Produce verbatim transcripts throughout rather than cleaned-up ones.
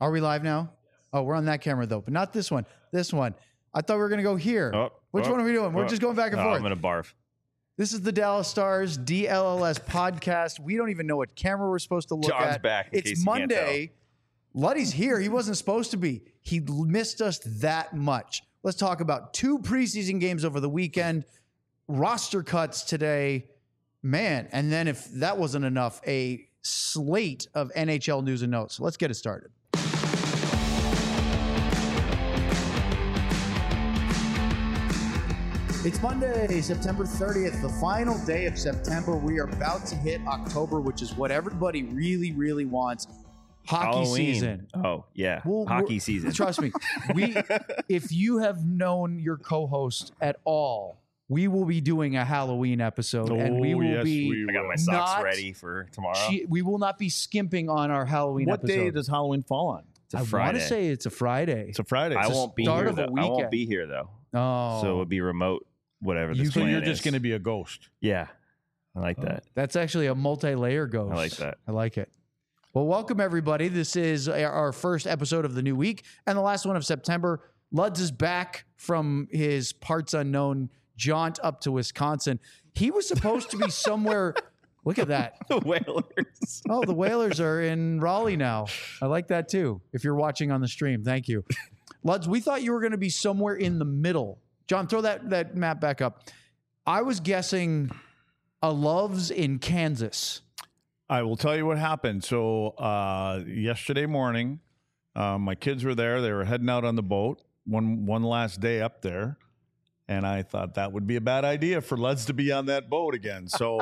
Are we live now? Oh, we're on that camera though, but not this one. This one. I thought we were going to go here. Oh, Which oh, one are we doing? We're oh. just going back and Oh, forth. I'm going to barf. This is the Dallas Stars D L L S podcast. We don't even know what camera we're supposed to look John's at. back, in It's case you can't Monday. Luddy's here. He wasn't supposed to be. He missed us that much. Let's talk about two preseason games over the weekend, roster cuts today. Man, and then if that wasn't enough, a slate of N H L news and notes. Let's get it started. It's Monday, September thirtieth, the final day of September. We are about to hit October, which is what everybody really, really wants. Hockey Halloween. season. Oh, yeah. Well, Hockey we're- season. Trust me. We, if you have known your co-host at all, we will be doing a Halloween episode, and we Oh, will yes, be. we I got my will. socks Not- ready for tomorrow. She, we will not be skimping on our Halloween What episode. day does Halloween fall on? it's a I want Friday. to say it's a Friday. It's a Friday. I It's a won't be start here. of a Though. I won't weekend. be here though, oh, so it would be remote. Whatever You this So can- plan you're just is. going to be a ghost. Yeah, I like that. that's actually a multi-layer ghost. I like that. I like it. Well, welcome everybody. This is our first episode of the new week and the last one of September. Luds is back from his parts unknown jaunt up to Wisconsin. He was supposed to be somewhere. Look at that. The Whalers. Oh, the Whalers are in Raleigh now. I like that too. If you're watching on the stream, thank you. Luds, we thought you were going to be somewhere in the middle. John, throw that, that map back up. I was guessing a Loves in Kansas. I will tell you what happened. So uh, yesterday morning, uh, my kids were there. They were heading out on the boat one one last day up there. And I thought that would be a bad idea for Leds to be on that boat again. So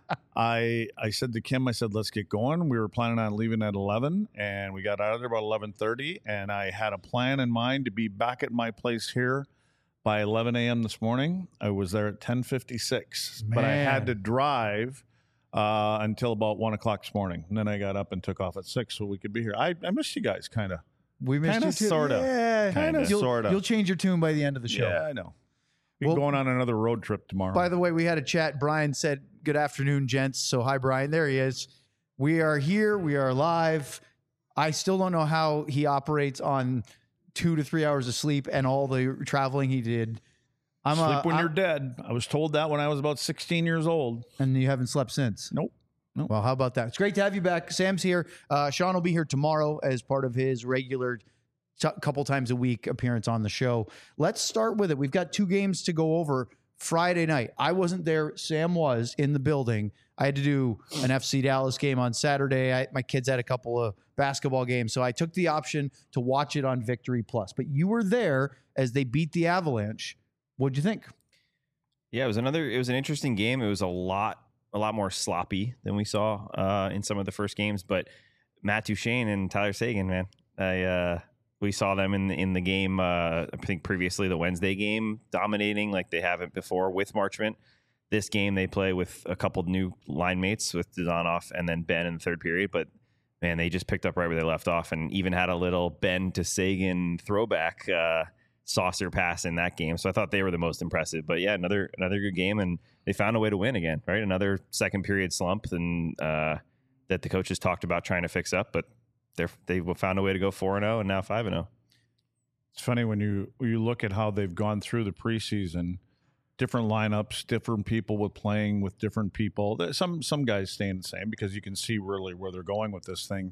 I I said to Kim, I said, let's get going. We were planning on leaving at eleven, and we got out of there about eleven thirty. And I had a plan in mind to be back at my place here by eleven a.m. this morning. I was there at ten fifty-six, but I Man. had to drive uh, until about one o'clock this morning. And then I got up and took off at six so we could be here. I, I missed you guys, kind of. We missed Kinda, you too. sorta. Yeah, Kinda, You'll, sorta. You'll change your tune by the end of the show. Yeah, I know. We're Well- going on another road trip tomorrow. By the way, we had a chat. Brian said, good afternoon, gents. So hi, Brian. There he is. We are here. We are live. I still don't know how he operates on two to three hours of sleep and all the traveling he did. I'm Sleep a, when I'm- you're dead. I was told that when I was about sixteen years old. and you haven't slept since. Nope. Well, how about that? It's great to have you back. Sam's here. Uh, Sean will be here tomorrow as part of his regular t- couple times a week appearance on the show. Let's start with it. We've got two games to go over. Friday night, I wasn't there. Sam was in the building. I had to do an F C Dallas game on Saturday. I, my kids had a couple of basketball games, so I took the option to watch it on Victory Plus. But you were there as they beat the Avalanche. What'd you think? Yeah, it was another. It was an interesting game. It was a lot, a lot more sloppy than we saw uh, in some of the first games. But Matt Duchene and Tyler Seguin, man, I uh, we saw them in the, in the game. Uh, I think previously the Wednesday game, dominating like they haven't before with Marchment. This game they play with a couple new line mates with Dazanoff and then Ben in the third period. But man, they just picked up right where they left off and even had a little Ben to Seguin throwback. Uh, saucer pass in that game. So I thought they were the most impressive. But yeah, another another good game, and they found a way to win again, right? Another second period slump and uh, that the coaches talked about trying to fix up, but they're they found a way to go four and oh and now five and oh. It's funny when you when you look at how they've gone through the preseason, different lineups, different people with playing with different people. There's Some some guys staying the same because you can see really where they're going with this thing.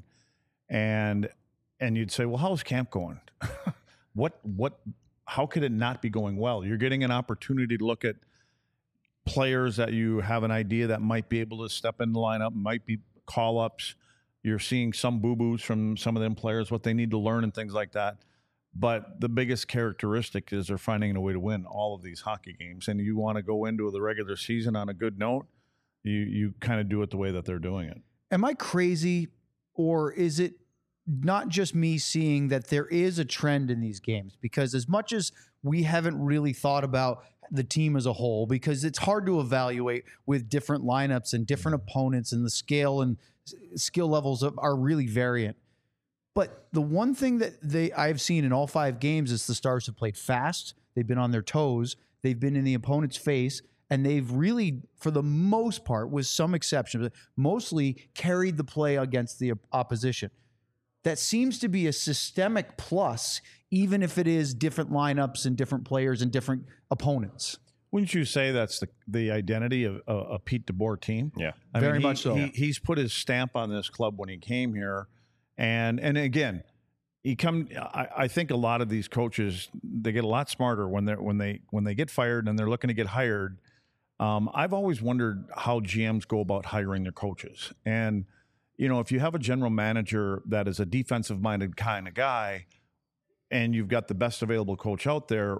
And and you'd say, well, how's camp going? what what how could it not be going well? You're getting an opportunity to look at players that you have an idea that might be able to step in the lineup, might be call-ups. You're seeing some boo-boos from some of them players, what they need to learn and things like that. But the biggest characteristic is they're finding a way to win all of these hockey games. And you want to go into the regular season on a good note, you you kind of do it the way that they're doing it. Am I crazy, or is it not just me seeing that there is a trend in these games? Because as much as we haven't really thought about the team as a whole, because it's hard to evaluate with different lineups and different opponents, and the scale and s- skill levels of, are really variant. But the one thing that they I've seen in all five games is the Stars have played fast. They've been on their toes. They've been in the opponent's face. And they've really, for the most part, with some exceptions, mostly carried the play against the opposition. that seems to be a systemic plus, even if it is different lineups and different players and different opponents. Wouldn't you say that's the the identity of a, a Pete DeBoer team? Yeah, I very mean, he, much so. He, he's put his stamp on this club when he came here, and and again, he come. I, I think a lot of these coaches, they get a lot smarter when they are when they when they get fired and they're looking to get hired. Um, I've always wondered how G Ms go about hiring their coaches, and you know, if you have a general manager that is a defensive minded kind of guy, and you've got the best available coach out there.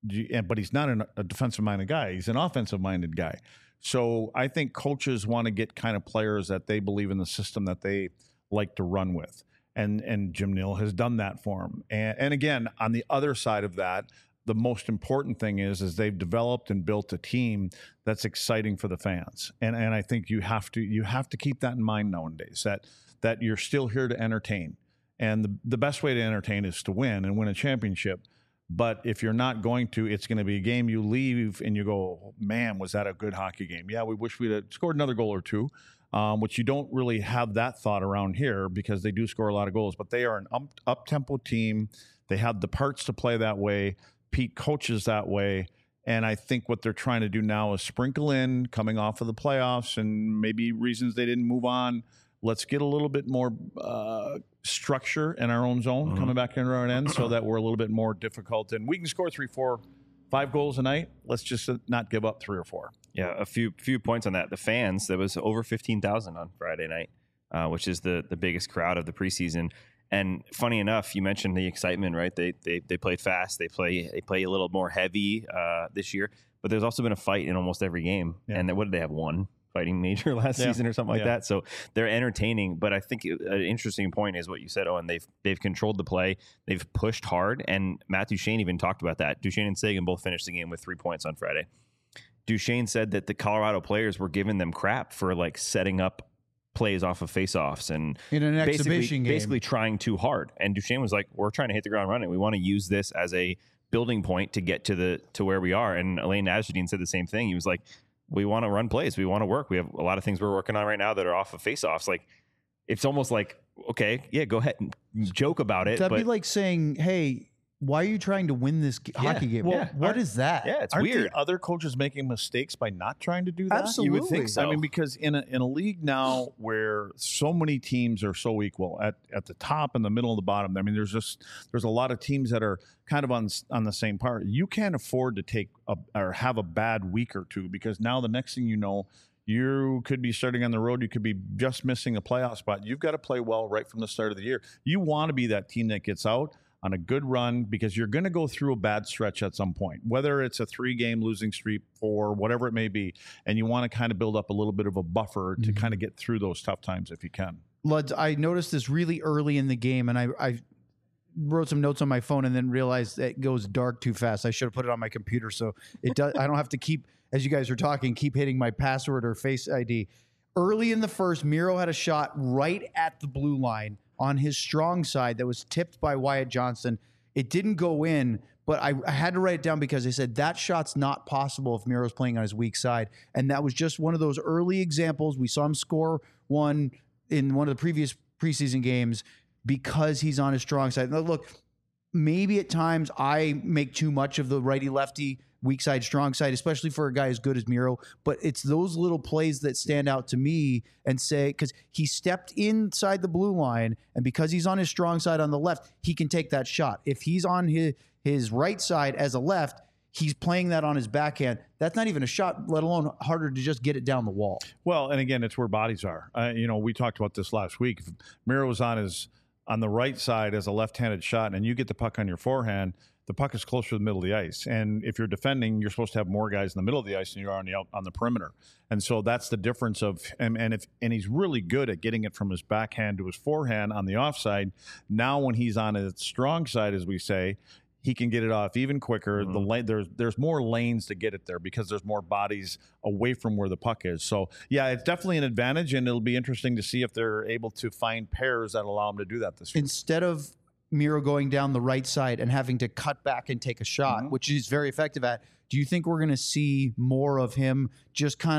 But he's not an, a defensive-minded guy. He's an offensive-minded guy. So I think coaches want to get kind of players that they believe in the system that they like to run with. And and Jim Nill has done that for him. And, and again, on the other side of that, the most important thing is, is they've developed and built a team that's exciting for the fans. And and I think you have to you have to keep that in mind nowadays, that that you're still here to entertain. And the, the best way to entertain is to win and win a championship. But if you're not going to, it's going to be a game you leave and you go, man, was that a good hockey game? Yeah, we wish we'd have scored another goal or two, um, which you don't really have that thought around here because they do score a lot of goals. But they are an up, up-tempo team. They have the parts to play that way. Pete coaches that way. And I think what they're trying to do now is sprinkle in, coming off of the playoffs and maybe reasons they didn't move on. Let's get a little bit more uh, structure in our own zone mm-hmm. coming back into our end so that we're a little bit more difficult. And we can score three, four, five goals a night. Let's just not give up three or four. Yeah, a few few points on that. The fans, there was over fifteen thousand on Friday night, uh, which is the, the biggest crowd of the preseason. And funny enough, you mentioned the excitement, right? They they they played fast. They play they play a little more heavy uh, this year. But there's also been a fight in almost every game. Yeah. And what did they have? One fighting major last yeah. season or something like yeah. that. So they're entertaining. But I think it, an interesting point is what you said, Owen. They've they've controlled the play. They've pushed hard. And Matt Duchene even talked about that. Duchene and Seguin both finished the game with three points on Friday. Duchene said that the Colorado players were giving them crap for like setting up plays off of faceoffs and in an basically, exhibition game. basically trying too hard. And Duchene was like, we're trying to hit the ground running. We want to use this as a building point to get to the to where we are. And Elaine Nasruddin said the same thing. He was like, we want to run plays. We want to work. We have a lot of things we're working on right now that are off of faceoffs. Like, it's almost like, okay, yeah, go ahead and joke about it. That'd but be like saying, hey, why are you trying to win this yeah, hockey game? Well, yeah. what is that? Yeah, it's Aren't weird. The other coaches making mistakes by not trying to do that? Absolutely. You would think so. I mean, because in a, in a league now where so many teams are so equal at, at the top and the middle and the bottom, I mean, there's just there's a lot of teams that are kind of on on the same part. You can't afford to take a, or have a bad week or two because now the next thing you know, you could be starting on the road. You could be just missing a playoff spot. You've got to play well right from the start of the year. You want to be that team that gets out on a good run because you're going to go through a bad stretch at some point, whether it's a three-game losing streak or whatever it may be, and you want to kind of build up a little bit of a buffer to mm-hmm. kind of get through those tough times if you can. Luds, I noticed this really early in the game, and I, I wrote some notes on my phone and then realized that it goes dark too fast. I should have put it on my computer so it does. I don't have to keep, as you guys are talking, keep hitting my password or Face I D. Early in the first, Miro had a shot right at the blue line on his strong side that was tipped by Wyatt Johnston. It didn't go in, but I, I had to write it down because I said that shot's not possible if Miro's playing on his weak side. And that was just one of those early examples. We saw him score one in one of the previous preseason games because he's on his strong side. Now, look, maybe at times I make too much of the righty-lefty, weak side, strong side, especially for a guy as good as Miro. But it's those little plays that stand out to me and say, because he stepped inside the blue line, and because he's on his strong side on the left, he can take that shot. If he's on his, his right side as a left, he's playing that on his backhand. That's not even a shot, let alone harder to just get it down the wall. Well, and again, it's where bodies are. Uh, you know, we talked about this last week. If Miro was on his on the right side as a left-handed shot, and you get the puck on your forehand, the puck is closer to the middle of the ice. And if you're defending, you're supposed to have more guys in the middle of the ice than you are on the out, on the perimeter. And so that's the difference of and, and if and he's really good at getting it from his backhand to his forehand on the offside. Now when he's on his strong side, as we say, he can get it off even quicker. Mm-hmm. The lane, there's there's more lanes to get it there because there's more bodies away from where the puck is. So yeah, it's definitely an advantage, and it'll be interesting to see if they're able to find pairs that allow them to do that this year. Instead of Miro going down the right side and having to cut back and take a shot, mm-hmm. which he's very effective at, do you think we're going to see more of him just kind of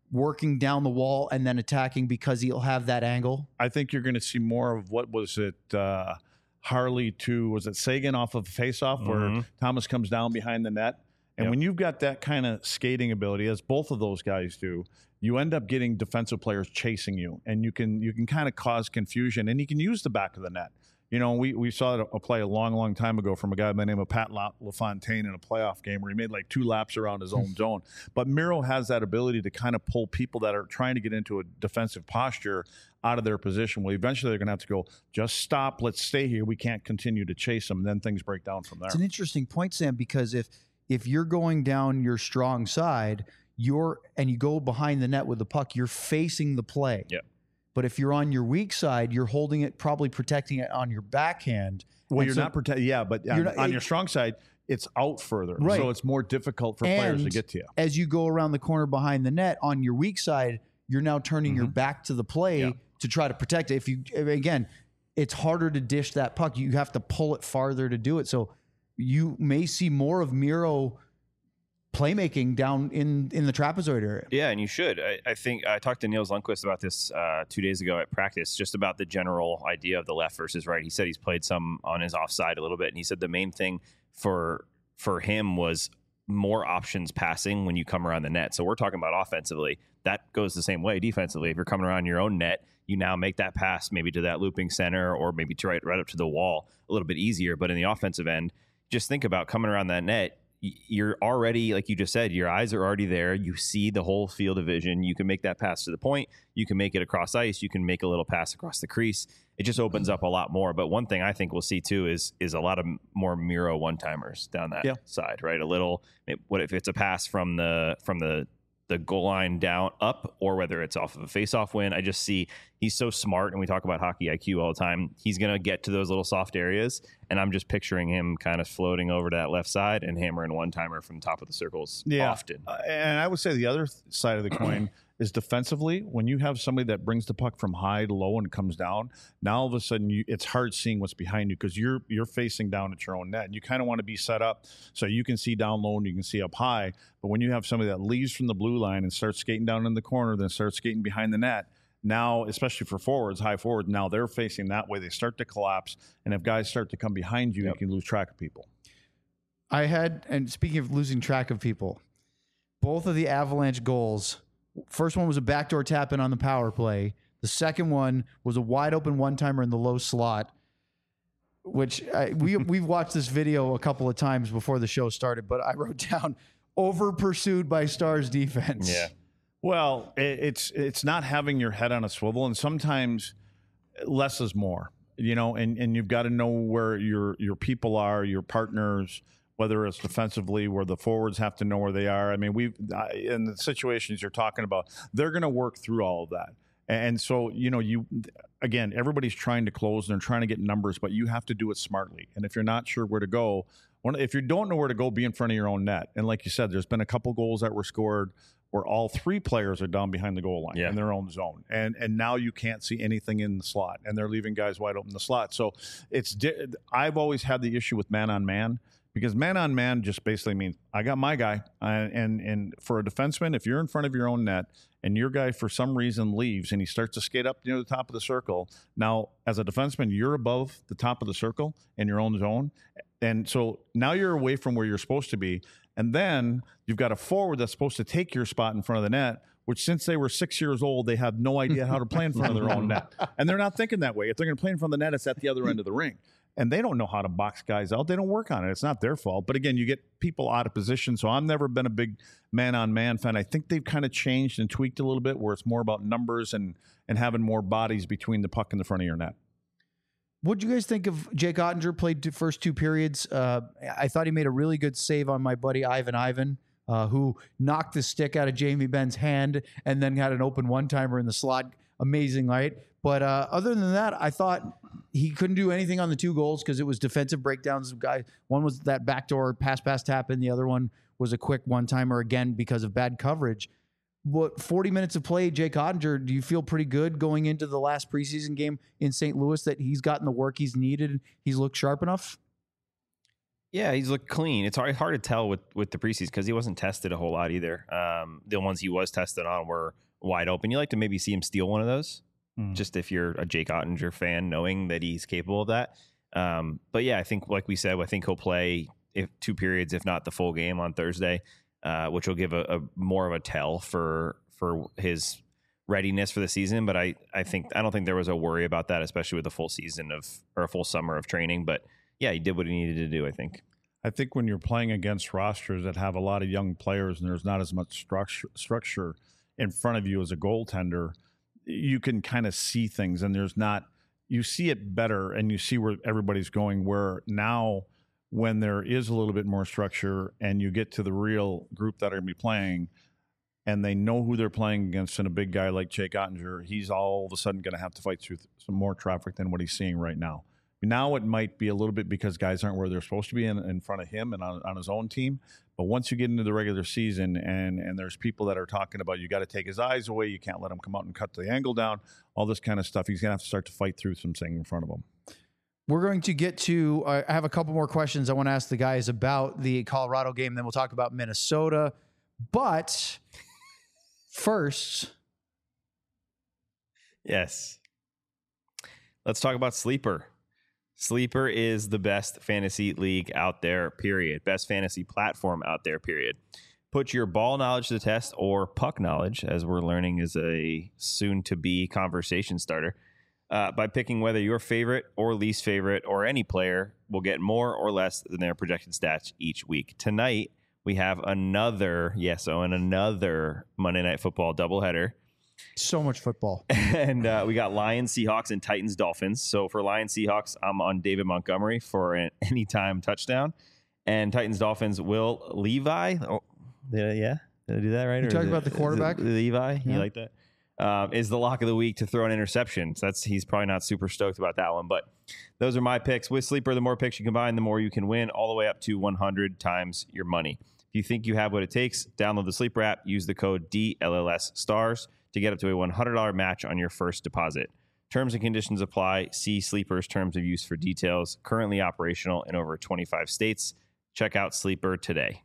working down the wall and then attacking because he'll have that angle? I think you're going to see more of what was it, uh, Harley to, was it Sagan off of a faceoff Mhm. where Thomas comes down behind the net? And Yep. when you've got that kind of skating ability, as both of those guys do, you end up getting defensive players chasing you, and you can you can kind of cause confusion, and you can use the back of the net. You know, we, we saw a play a long, long time ago from a guy by the name of Pat La- LaFontaine in a playoff game where he made like two laps around his own zone. But Miro has that ability to kind of pull people that are trying to get into a defensive posture out of their position. Well, eventually they're going to have to go, just stop, let's stay here. We can't continue to chase them. And then things break down from there. It's an interesting point, Sam, because if if you're going down your strong side, you're and you go behind the net with the puck, you're facing the play. Yeah. But if you're on your weak side, you're holding it, probably protecting it on your backhand. Well, And you're so- not protecting. Yeah, but on, You're not- on it- your strong side, it's out further, Right. so it's more difficult for players to And get to you. as you go around the corner behind the net on your weak side, you're now turning your back to the play Yeah. to try to protect it. If you again, it's harder to dish that puck. You have to pull it farther to do it. So you may see more of Miro playmaking down in in the trapezoid area. Yeah, and you should. I, I think I talked to Niels Lundqvist about this uh, two days ago at practice, just about the general idea of the left versus right. He said he's played some on his offside a little bit, and he said the main thing for for him was more options passing when you come around the net. So we're talking about offensively. That goes the same way defensively. If you're coming around your own net, you now make that pass maybe to that looping center or maybe to right, right up to the wall a little bit easier. But in the offensive end, just think about coming around that net. You're already, like you just said, your eyes are already there. You see the whole field of vision. You can make that pass to the point. You can make it across ice. You can make a little pass across the crease. It just opens up a lot more. But one thing I think we'll see too is is a lot of more Miro one timers down that Yeah. side, right? A little. What if it's a pass from the from the the goal line down up, or whether it's off of a face-off win? I just see he's so smart, and we talk about hockey I Q all the time. He's going to get to those little soft areas, and I'm just picturing him kind of floating over to that left side and hammering one-timer from the top of the circles Yeah. often. Uh, and I would say the other th- side of the coin is defensively. When you have somebody that brings the puck from high to low and comes down, now all of a sudden you, it's hard seeing what's behind you because you're you're facing down at your own net. And you kind of want to be set up so you can see down low and you can see up high. But when you have somebody that leaves from the blue line and starts skating down in the corner, then starts skating behind the net, now, especially for forwards, high forward, now they're facing that way. They start to collapse. And if guys start to come behind you, Yep. you can lose track of people. I had, and speaking of losing track of people, both of the Avalanche goals. First one was a backdoor tap in on the power play. The second one was a wide open one timer in the low slot, which I, we we've watched this video a couple of times before the show started. But I wrote down over pursued by Stars defense. Yeah. Well, it, it's it's not having your head on a swivel, and sometimes less is more. You know, and, and you've got to know where your your people are, your partners, whether it's defensively, where the forwards have to know where they are. I mean, we've in the situations you're talking about, they're going to work through all of that. And so, you know, you again, everybody's trying to close and they're trying to get numbers, but you have to do it smartly. And if you're not sure where to go, one, if you don't know where to go, be in front of your own net. And like you said, there's been a couple goals that were scored where all three players are down behind the goal line Yeah. in their own zone. And and now you can't see anything in the slot, and they're leaving guys wide open in the slot. So it's di- I've always had the issue with man on man, because man on man just basically means I got my guy. And, and and for a defenseman, if you're in front of your own net and your guy for some reason leaves and he starts to skate up near the top of the circle, now as a defenseman, you're above the top of the circle in your own zone. And so now you're away from where you're supposed to be. And then you've got a forward that's supposed to take your spot in front of the net, which since they were six years old, they have no idea how to play in front of their own net. And they're not thinking that way. If they're going to play in front of the net, it's at the other end of the ring. And they don't know how to box guys out. They don't work on it. It's not their fault. But again, you get people out of position. So I've never been a big man-on-man fan. I think they've kind of changed and tweaked a little bit where it's more about numbers and and having more bodies between the puck and the front of your net. What'd you guys think of Jake Ottinger? Played the first two periods. Uh, I thought he made a really good save on my buddy Ivan Ivan, uh, who knocked the stick out of Jamie Benn's hand and then had an open one-timer in the slot. Amazing, right? But uh, other than that, I thought he couldn't do anything on the two goals because it was defensive breakdowns. Guy, one was that backdoor pass, pass, tap, and the other one was a quick one-timer again because of bad coverage. What forty minutes of play, Jake Ottinger, do you feel pretty good going into the last preseason game in Saint Louis that he's gotten the work he's needed? He's looked sharp enough? Yeah, he's looked clean. It's hard, hard to tell with, with the preseason because he wasn't tested a whole lot either. Um, the ones he was tested on were wide open. You like to maybe see him steal one of those, mm. just if you're a Jake Ottinger fan, knowing that he's capable of that. Um, but yeah, I think, like we said, I think he'll play if two periods, if not the full game on Thursday, uh, which will give a, a more of a tell for for his readiness for the season. But I, I think I don't think there was a worry about that, especially with a full season of or a full summer of training. But yeah, he did what he needed to do, I think. I think when you're playing against rosters that have a lot of young players and there's not as much structure structure in front of you as a goaltender, you can kind of see things, and there's not, you see it better and you see where everybody's going, where now when there is a little bit more structure and you get to the real group that are going to be playing and they know who they're playing against, and a big guy like Jake Ottinger, he's all of a sudden going to have to fight through some more traffic than what he's seeing right now. Now it might be a little bit because guys aren't where they're supposed to be in, in front of him and on, on his own team. But once you get into the regular season and and there's people that are talking about you got to take his eyes away, you can't let him come out and cut the angle down, all this kind of stuff, he's going to have to start to fight through some things in front of him. We're going to get to, uh, I have a couple more questions I want to ask the guys about the Colorado game. Then we'll talk about Minnesota. But first. Yes. Let's talk about Sleeper. Sleeper is the best fantasy league out there, period. Best fantasy platform out there, period. Put your ball knowledge to the test, or puck knowledge, as we're learning is a soon-to-be conversation starter, uh, by picking whether your favorite or least favorite or any player will get more or less than their projected stats each week. Tonight, we have another, yes, Owen, another Monday Night Football doubleheader. So much football. And uh, we got Lions, Seahawks, and Titans, Dolphins. So for Lions, Seahawks, I'm on David Montgomery for an anytime touchdown. And Titans, Dolphins, Will Levi. Oh, did I, yeah? Did I do that right? You talking about the quarterback? Levi? Yeah. You like that? Um, is the lock of the week to throw an interception. So that's he's probably not super stoked about that one. But those are my picks. With Sleeper, the more picks you combine, the more you can win, all the way up to one hundred times your money. If you think you have what it takes, download the Sleeper app. Use the code D L L S STARS to get up to a one hundred dollars match on your first deposit. Terms and conditions apply. See Sleeper's terms of use for details. Currently operational in over twenty-five states. Check out Sleeper today.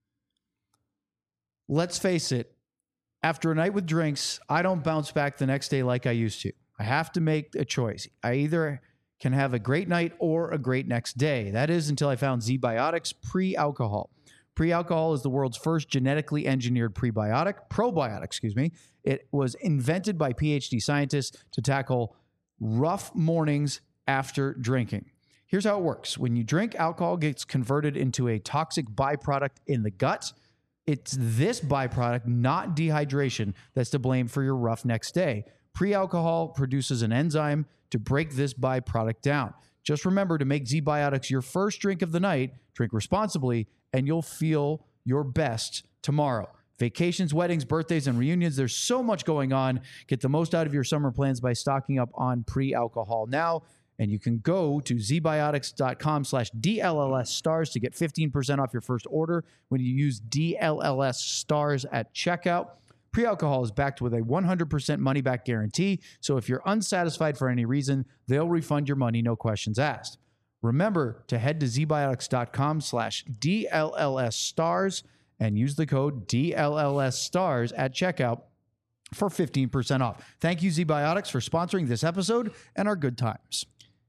Let's face it. After a night with drinks, I don't bounce back the next day like I used to. I have to make a choice. I either can have a great night or a great next day. That is until I found Z-Biotics pre-alcohol. Pre-alcohol is the world's first genetically engineered prebiotic, probiotic, excuse me. It was invented by PhD scientists to tackle rough mornings after drinking. Here's how it works. When you drink, alcohol gets converted into a toxic byproduct in the gut. It's this byproduct, not dehydration, that's to blame for your rough next day. Pre-alcohol produces an enzyme to break this byproduct down. Just remember to make Z-Biotics your first drink of the night, drink responsibly, and you'll feel your best tomorrow. Vacations, weddings, birthdays, and reunions. There's so much going on. Get the most out of your summer plans by stocking up on pre-alcohol now. And you can go to zbiotics.com slash DLLS stars to get fifteen percent off your first order when you use D L L S stars at checkout. Pre-alcohol is backed with a one hundred percent money-back guarantee. So if you're unsatisfied for any reason, they'll refund your money, no questions asked. Remember to head to zbiotics.com slash DLLS stars and use the code D L L S stars at checkout for fifteen percent off. Thank you, Z-Biotics, for sponsoring this episode and our good times.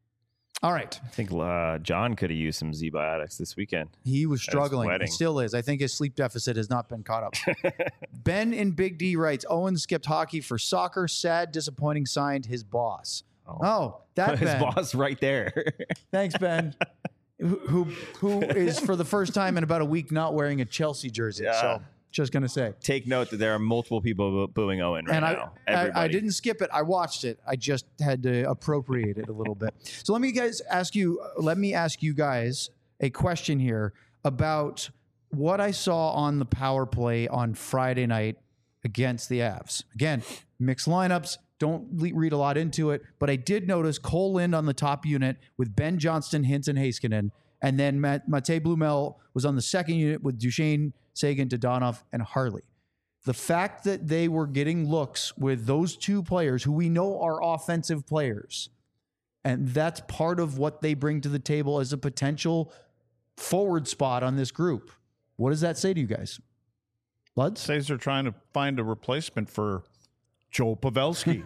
All right. I think uh, John could have used some Z-Biotics this weekend. He was struggling. He still is. I think his sleep deficit has not been caught up. Ben in Big D writes, Owen skipped hockey for soccer. Sad, disappointing, signed his boss. Oh, oh that his Ben. boss right there. Thanks, Ben. who, who who is for the first time in about a week not wearing a Chelsea jersey. Yeah. So just going to say. Take note that there are multiple people booing Owen right and I, now. I, I didn't skip it. I watched it. I just had to appropriate it a little bit. So let me guys ask you, let me ask you guys a question here about what I saw on the power play on Friday night against the Avs. Again, mixed lineups. Don't le- read a lot into it, but I did notice Cole Lind on the top unit with Ben Johnston, Hintz, and Heiskanen. And then Matt, Mate Blumel was on the second unit with Duchesne, Sagan, Dodonov, and Harley. The fact that they were getting looks with those two players who we know are offensive players, and that's part of what they bring to the table as a potential forward spot on this group. What does that say to you guys? Luds? Says they're trying to find a replacement for Joe Pavelski.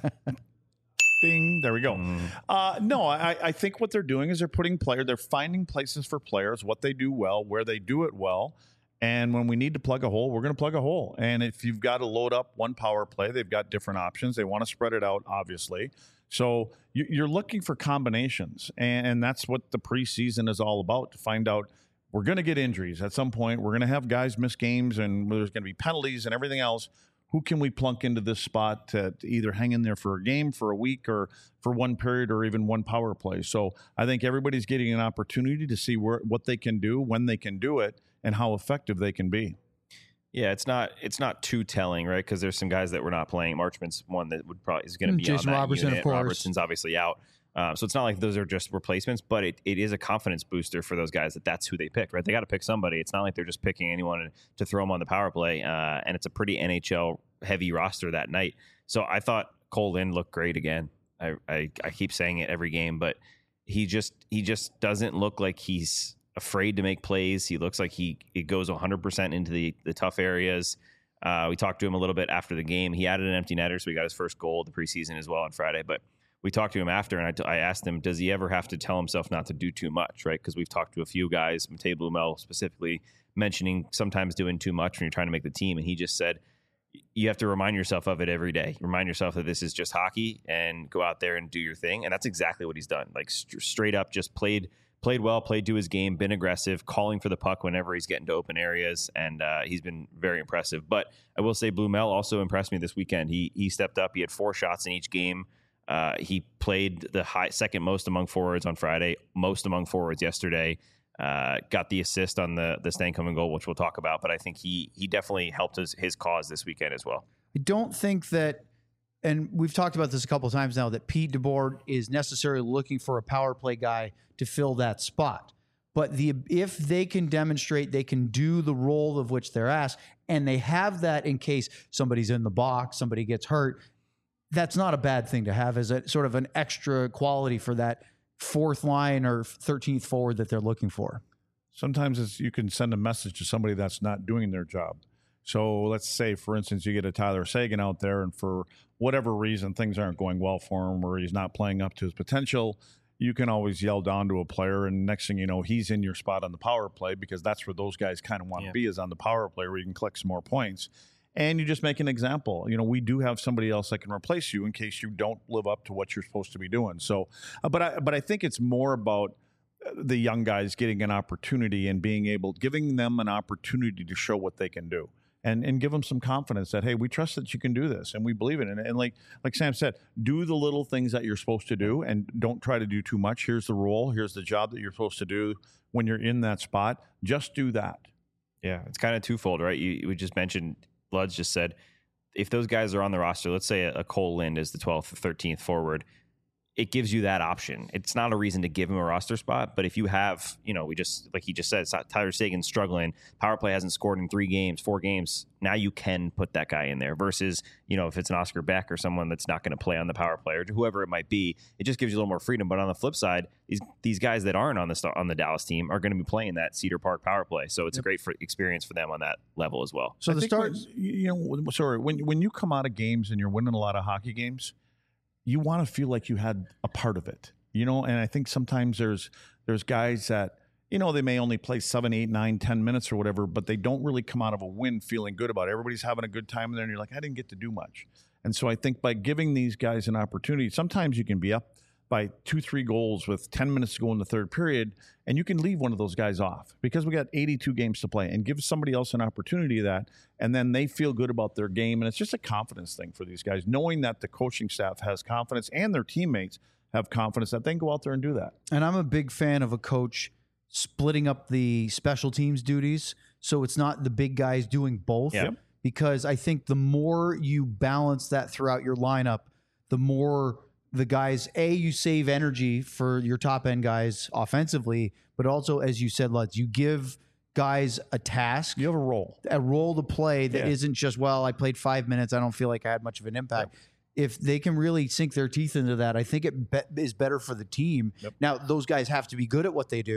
Ding. There we go. Mm. Uh, no, I, I think what they're doing is they're putting player. They're finding places for players, what they do well, where they do it well. And when we need to plug a hole, we're going to plug a hole. And if you've got to load up one power play, they've got different options. They want to spread it out, obviously. So you, you're looking for combinations. And, and that's what the preseason is all about, to find out we're going to get injuries at some point. We're going to have guys miss games, and there's going to be penalties and everything else. Who can we plunk into this spot to, to either hang in there for a game, for a week, or for one period, or even one power play? So I think everybody's getting an opportunity to see where what they can do, when they can do it, and how effective they can be. Yeah, it's not it's not too telling, right? Because there's some guys that we're not playing. Marchman's one that would probably is going to be Jason on that Robertson, unit. of course. Robertson's obviously out. Um, so it's not like those are just replacements, but it, it is a confidence booster for those guys that that's who they pick, right? They got to pick somebody. It's not like they're just picking anyone to throw them on the power play. Uh, and it's a pretty N H L heavy roster that night. So I thought Cole Lind looked great again. I, I, I keep saying it every game, but he just he just doesn't look like he's afraid to make plays. He looks like he, he goes one hundred percent into the, the tough areas. Uh, we talked to him a little bit after the game. He added an empty netter, so he got his first goal of the preseason as well on Friday. But we talked to him after, and I, t- I asked him, does he ever have to tell himself not to do too much, right? Because we've talked to a few guys, Matej Blumel specifically, mentioning sometimes doing too much when you're trying to make the team. And he just said, you have to remind yourself of it every day. Remind yourself that this is just hockey and go out there and do your thing. And that's exactly what he's done. Like st- straight up just played played well, played to his game, been aggressive, calling for the puck whenever he's getting to open areas. And uh, he's been very impressive. But I will say Blumel also impressed me this weekend. He he stepped up. He had four shots in each game. Uh, he played the high, second most among forwards on Friday, most among forwards yesterday. Uh, got the assist on the the Stankoven goal, which we'll talk about. But I think he he definitely helped his his cause this weekend as well. I don't think that, and we've talked about this a couple of times now, that Pete DeBoer is necessarily looking for a power play guy to fill that spot. But the if they can demonstrate they can do the role of which they're asked, and they have that in case somebody's in the box, somebody gets hurt, that's not a bad thing to have as a sort of an extra quality for that fourth line or thirteenth forward that they're looking for. Sometimes it's, you can send a message to somebody that's not doing their job. So let's say, for instance, you get a Tyler Seguin out there, and for whatever reason, things aren't going well for him, or he's not playing up to his potential. You can always yell down to a player, and next thing you know, he's in your spot on the power play, because that's where those guys kind of want to yeah. be, is on the power play, where you can collect some more points. And you just make an example. You know, we do have somebody else that can replace you in case you don't live up to what you're supposed to be doing. So, uh, but I, but I think it's more about the young guys getting an opportunity and being able, giving them an opportunity to show what they can do, and and give them some confidence that, hey, we trust that you can do this, and we believe it. And, and like like Sam said, do the little things that you're supposed to do, and don't try to do too much. Here's the role. Here's the job that you're supposed to do when you're in that spot. Just do that. Yeah, it's kind of twofold, right? You we just mentioned. Bloods just said, if those guys are on the roster, let's say a, a Cole Lind is the twelfth or thirteenth forward, it gives you that option. It's not a reason to give him a roster spot, but if you have, you know, we just, like he just said, it's not Tyler Seguin struggling, power play hasn't scored in three games, four games, now you can put that guy in there versus, you know, if it's an Oscar Beck or someone that's not going to play on the power play, or whoever it might be, it just gives you a little more freedom. But on the flip side, these these guys that aren't on the on the Dallas team are going to be playing that Cedar Park power play, so it's yep. a great for, experience for them on that level as well. So I the start, when, you know, sorry, when when you come out of games and you're winning a lot of hockey games, you want to feel like you had a part of it, you know. And I think sometimes there's there's guys that, you know, they may only play seven, eight, nine, ten minutes or whatever, but they don't really come out of a win feeling good about it. Everybody's having a good time in there, and you're like, I didn't get to do much. And so I think by giving these guys an opportunity, sometimes you can be up by two, three goals with ten minutes to go in the third period, and you can leave one of those guys off because we got eighty-two games to play, and give somebody else an opportunity of that, and then they feel good about their game. And it's just a confidence thing for these guys, knowing that the coaching staff has confidence and their teammates have confidence that they can go out there and do that. And I'm a big fan of a coach splitting up the special teams duties, so it's not the big guys doing both. Yep. Because I think the more you balance that throughout your lineup, the more the guys, A, you save energy for your top end guys offensively, but also, as you said, Lutz, you give guys a task. You have a role. A role to play that yeah. isn't just, well, I played five minutes, I don't feel like I had much of an impact. Yep. If they can really sink their teeth into that, I think it be- is better for the team. Yep. Now, those guys have to be good at what they do,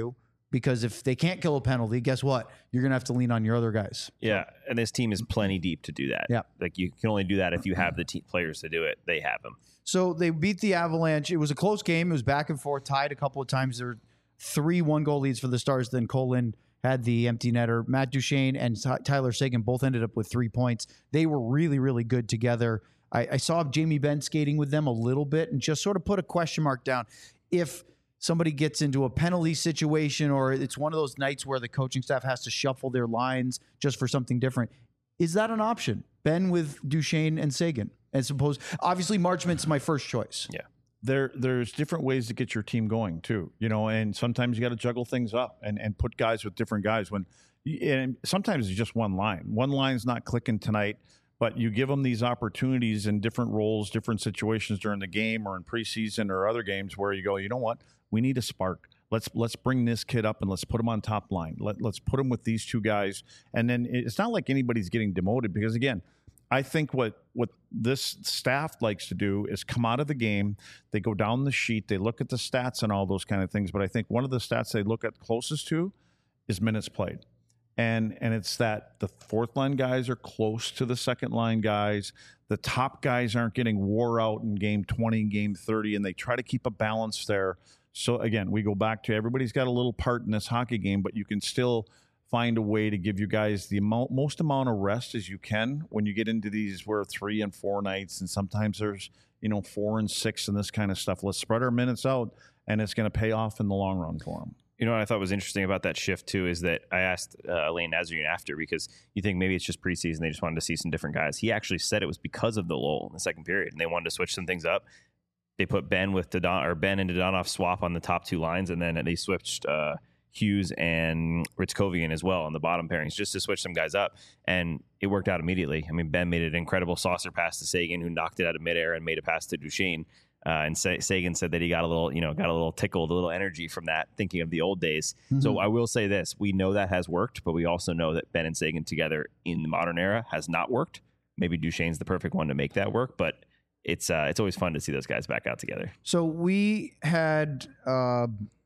because if they can't kill a penalty, guess what? You're going to have to lean on your other guys. Yeah, and this team is plenty deep to do that. Yeah. Like you can only do that if you have the te- players to do it. They have them. So they beat the Avalanche. It was a close game. It was back and forth, tied a couple of times. There were three one-goal leads for the Stars. Then Colin had the empty netter. Matt Duchene and Ty- Tyler Seguin both ended up with three points. They were really, really good together. I, I saw Jamie Benn skating with them a little bit and just sort of put a question mark down. If somebody gets into a penalty situation or it's one of those nights where the coaching staff has to shuffle their lines just for something different, is that an option? Ben with Duchene and Seguin? And suppose, obviously, Marchment's my first choice. Yeah. There, there's different ways to get your team going too, you know, and sometimes you got to juggle things up and, and put guys with different guys when, and sometimes it's just one line. One line's not clicking tonight, but you give them these opportunities in different roles, different situations during the game or in preseason or other games where you go, you know what, we need a spark. Let's let's bring this kid up and let's put him on top line. Let, let's put him with these two guys. And then it's not like anybody's getting demoted because, again, I think what what this staff likes to do is come out of the game, they go down the sheet, they look at the stats and all those kind of things. But I think one of the stats they look at closest to is minutes played. And and it's that the fourth line guys are close to the second line guys. The top guys aren't getting wore out in game twenty, game thirty, and they try to keep a balance there. So, again, we go back to everybody's got a little part in this hockey game, but you can still find a way to give you guys the amount, most amount of rest as you can when you get into these where three and four nights, and sometimes there's, you know, four and six and this kind of stuff. Let's spread our minutes out, and it's going to pay off in the long run for them. You know what I thought was interesting about that shift, too, is that I asked uh, Elaine Nazarian after because you think maybe it's just preseason. They just wanted to see some different guys. He actually said it was because of the lull in the second period, and they wanted to switch some things up. They put Ben with Dodon, or Ben and Dodonov swap on the top two lines, and then they switched uh, Hughes and Ritzkovian as well on the bottom pairings just to switch some guys up, and it worked out immediately. I mean, Ben made an incredible saucer pass to Seguin, who knocked it out of midair and made a pass to Duchene. Uh, and Sa- Seguin said that he got a little, you know, got a little tickled, a little energy from that, thinking of the old days. Mm-hmm. So I will say this: we know that has worked, but we also know that Ben and Seguin together in the modern era has not worked. Maybe Duchene's the perfect one to make that work, but it's uh, it's always fun to see those guys back out together. So we had, uh,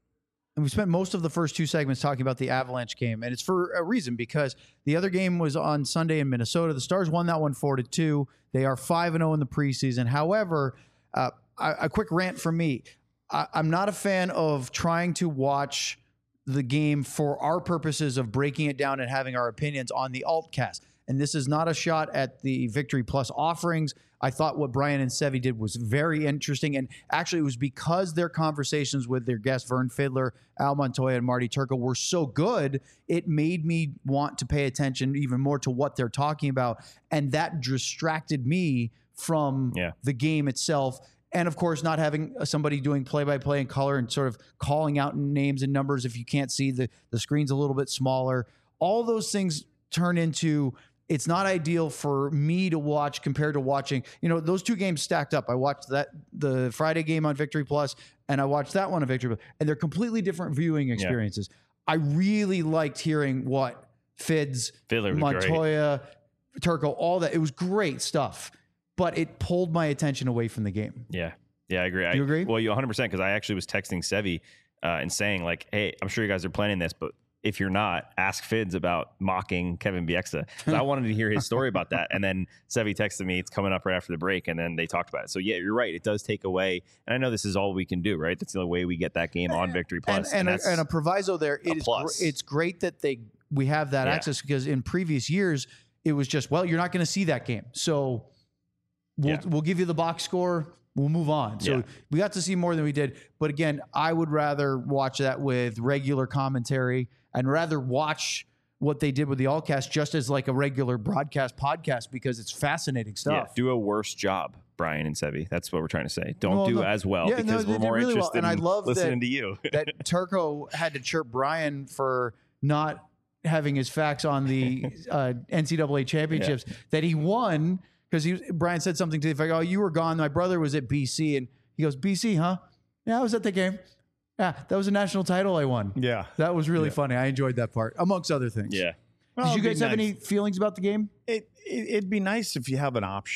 we spent most of the first two segments talking about the Avalanche game, and it's for a reason because the other game was on Sunday in Minnesota. The Stars won that one four to two. They are five and zero in the preseason. However, uh, a, a quick rant from me: I, I'm not a fan of trying to watch the game for our purposes of breaking it down and having our opinions on the Altcast. And this is not a shot at the Victory Plus offerings. I thought what Brian and Sevi did was very interesting. And actually, it was because their conversations with their guests, Vern Fiddler, Al Montoya, and Marty Turco, were so good, it made me want to pay attention even more to what they're talking about. And that distracted me from yeah. the game itself. And, of course, not having somebody doing play-by-play in color and sort of calling out names and numbers if you can't see the, the screen's a little bit smaller. All those things turn into... It's not ideal for me to watch compared to watching, you know, those two games stacked up. I watched that, the Friday game on Victory Plus, and I watched that one on Victory Plus, and they're completely different viewing experiences. Yeah. I really liked hearing what Fids, Fiddler Montoya, Turco, all that. It was great stuff, but it pulled my attention away from the game. Yeah. Yeah, I agree. Do you I, agree? Well, you one hundred percent, because I actually was texting Sevi uh, and saying, like, hey, I'm sure you guys are planning this, but if you're not, ask Fids about mocking Kevin Bieksa. I wanted to hear his story about that. And then Sevi texted me, it's coming up right after the break. And then they talked about it. So, yeah, you're right. It does take away. And I know this is all we can do, right? That's the only way we get that game on Victory Plus. And, and, and, a, and a proviso there. It is plus. Gr- it's great that they we have that Yeah. access because in previous years, it was just, well, you're not going to see that game. So we'll, Yeah. we'll give you the box score. We'll move on. So Yeah. we got to see more than we did. But again, I would rather watch that with regular commentary and rather watch what they did with the Allcast just as like a regular broadcast podcast because it's fascinating stuff. Yeah, do a worse job, Brian and Sevi. That's what we're trying to say. Don't Well, do no. as well Yeah, no, because they we're did more really well. interested And I in love listening that- to you. that Turco had to chirp Brian for not having his facts on the uh, N C double A championships that he won because he Brian said something to the effect, "Oh, you were gone. My brother was at B C," and he goes, "B C, huh? Yeah, I was at the game. Yeah, that was a national title I won. Yeah. That was really Yeah. funny. I enjoyed that part, amongst other things." Yeah. Well, Did you it'd be guys have nice. any feelings about the game? It, it it'd be nice if you have an option.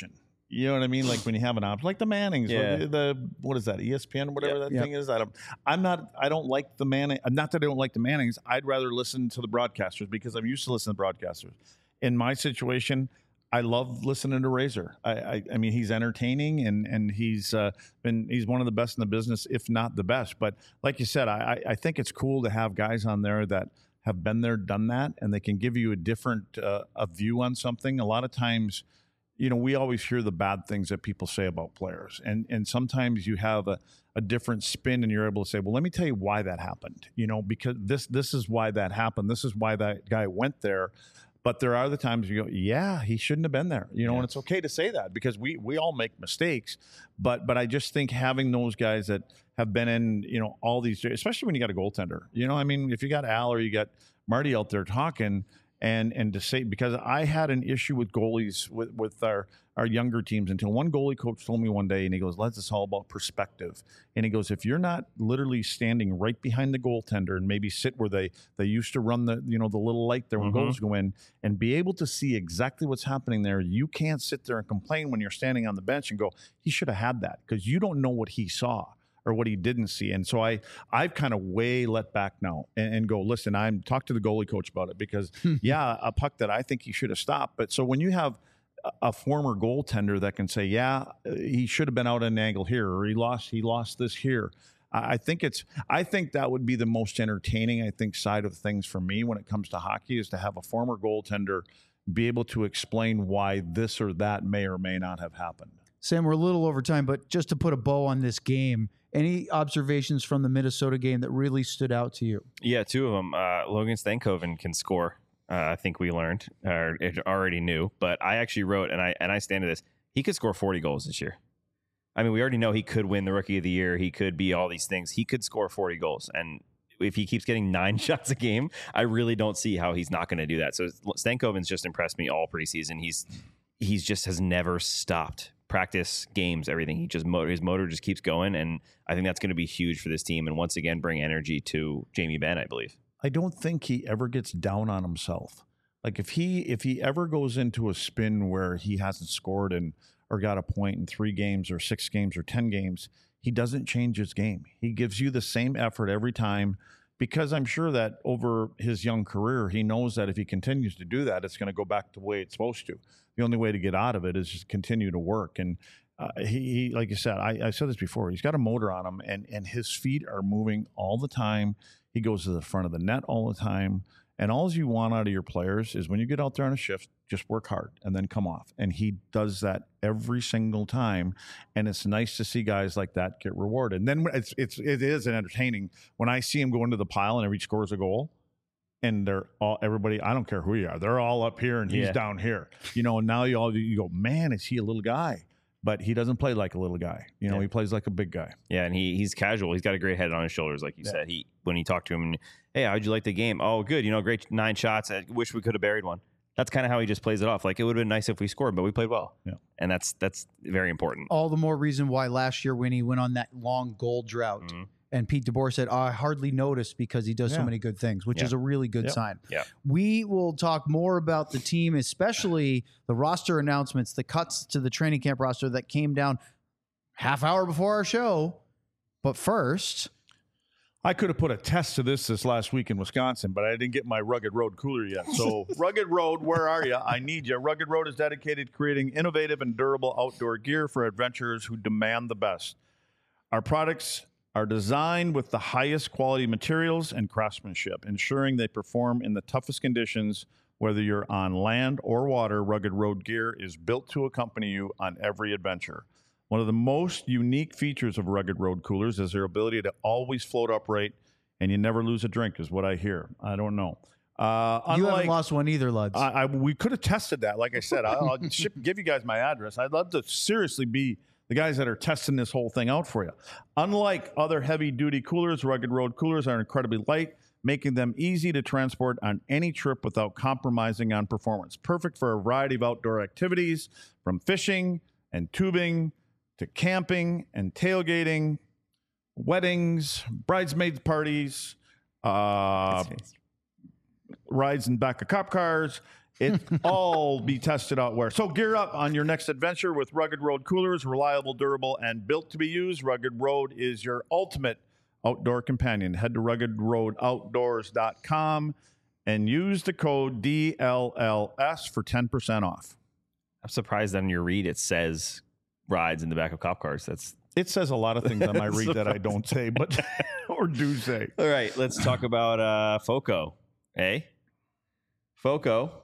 You know what I mean? Like when you have an option, like the Mannings, Yeah. the, the what is that, E S P N, whatever Yep. that Yep. thing is. I don't, I'm not, I don't like the Manning. Not that I don't like the Mannings. I'd rather listen to the broadcasters because I'm used to listening to broadcasters. In my situation, I love listening to Razor. I, I, I mean, he's entertaining and and he's uh, been he's one of the best in the business, if not the best. But like you said, I, I think it's cool to have guys on there that have been there, done that, and they can give you a different uh, a view on something. A lot of times, you know, we always hear the bad things that people say about players. And and sometimes you have a, a different spin and you're able to say, well, let me tell you why that happened. You know, because this this is why that happened. This is why that guy went there. But there are the times you go, yeah, he shouldn't have been there. You know, Yeah. and it's okay to say that because we we all make mistakes. But but I just think having those guys that have been in, you know, all these, especially when you got a goaltender. You know, I mean, if you got Al or you got Marty out there talking, And and to say, because I had an issue with goalies with, with our, our younger teams until one goalie coach told me one day, and he goes, Les, it's all about perspective. And he goes, if you're not literally standing right behind the goaltender and maybe sit where they, they used to run the, you know, the little light there when Mhm. goals go in and be able to see exactly what's happening there, you can't sit there and complain when you're standing on the bench and go, he should have had that, because you don't know what he saw or what he didn't see. And so I, I've kind of way let back now and, and go, listen, I'm talk to the goalie coach about it because yeah, a puck that I think he should have stopped. But so when you have a, a former goaltender that can say, yeah, he should have been out at an angle here, or he lost, he lost this here. I I think it's, I think that would be the most entertaining, I think, side of things for me when it comes to hockey, is to have a former goaltender be able to explain why this or that may or may not have happened. Sam, we're a little over time, but just to put a bow on this game, any observations from the Minnesota game that really stood out to you? Yeah, two of them. Uh, Logan Stankoven can score. Uh, I think we learned, or it already knew. But I actually wrote, and I and I stand to this. He could score forty goals this year. I mean, we already know he could win the Rookie of the Year. He could be all these things. He could score forty goals, and if he keeps getting nine shots a game, I really don't see how he's not going to do that. So Stankoven's just impressed me all preseason. He's he's just has never stopped. Practice, games, everything. He just motor, his motor just keeps going, and I think that's going to be huge for this team. And once again, bring energy to Jamie Benn, I believe. I don't think he ever gets down on himself. Like if he if he ever goes into a spin where he hasn't scored and or got a point in three games or six games or ten games, he doesn't change his game. He gives you the same effort every time, because I'm sure that over his young career, he knows that if he continues to do that, it's going to go back to the way it's supposed to. The only way to get out of it is just continue to work. And uh, he, he, like you said, I, I said this before, he's got a motor on him, and, and his feet are moving all the time. He goes to the front of the net all the time. And all you want out of your players is when you get out there on a shift, just work hard and then come off. And he does that every single time. And it's nice to see guys like that get rewarded. And then it's, it's, it is an entertaining when I see him go into the pile and every scores a goal. And they're all, everybody, I don't care who you are, they're all up here and he's Yeah. down here. You know, and now you all, you go, man, is he a little guy? But he doesn't play like a little guy. You know, Yeah. he plays like a big guy. Yeah, and he he's casual. He's got a great head on his shoulders, like you Yeah. said. He when you talk to him, and, hey, how'd you like the game? Oh, good. You know, great nine shots. I wish we could have buried one. That's kind of how he just plays it off. Like, it would have been nice if we scored, but we played well. Yeah. And that's that's very important. All the more reason why last year when he went on that long goal drought, Mhm. and Pete DeBoer said, I hardly noticed because he does so Yeah. many good things, which Yeah. is a really good Yep. sign. Yeah. We will talk more about the team, especially the roster announcements, the cuts to the training camp roster that came down half hour before our show. But first, I could have put a test to this this last week in Wisconsin, but I didn't get my Rugged Road cooler yet. So, Rugged Road, where are you? I need you. Rugged Road is dedicated to creating innovative and durable outdoor gear for adventurers who demand the best. Our products are designed with the highest quality materials and craftsmanship, ensuring they perform in the toughest conditions. Whether you're on land or water, Rugged Road gear is built to accompany you on every adventure. One of the most unique features of Rugged Road coolers is their ability to always float upright, and you never lose a drink, is what I hear. I don't know. Uh, you unlike, haven't lost one either, Luds. I, I, we could have tested that. Like I said, I'll, I'll ship, give you guys my address. I'd love to seriously be the guys that are testing this whole thing out for you. Unlike other heavy-duty coolers, Rugged Road coolers are incredibly light, making them easy to transport on any trip without compromising on performance. Perfect for a variety of outdoor activities, from fishing and tubing to camping and tailgating, weddings, bridesmaids parties, uh, rides in back of cop cars. It all be tested out where. So gear up on your next adventure with Rugged Road coolers, reliable, durable, and built to be used. Rugged Road is your ultimate outdoor companion. Head to rugged road outdoors dot com and use the code D L L S for ten percent off. I'm surprised on your read it says rides in the back of cop cars. That's It says a lot of things on my read that I don't say, but or do say. all right. Let's talk about uh, Foco. Eh? Foco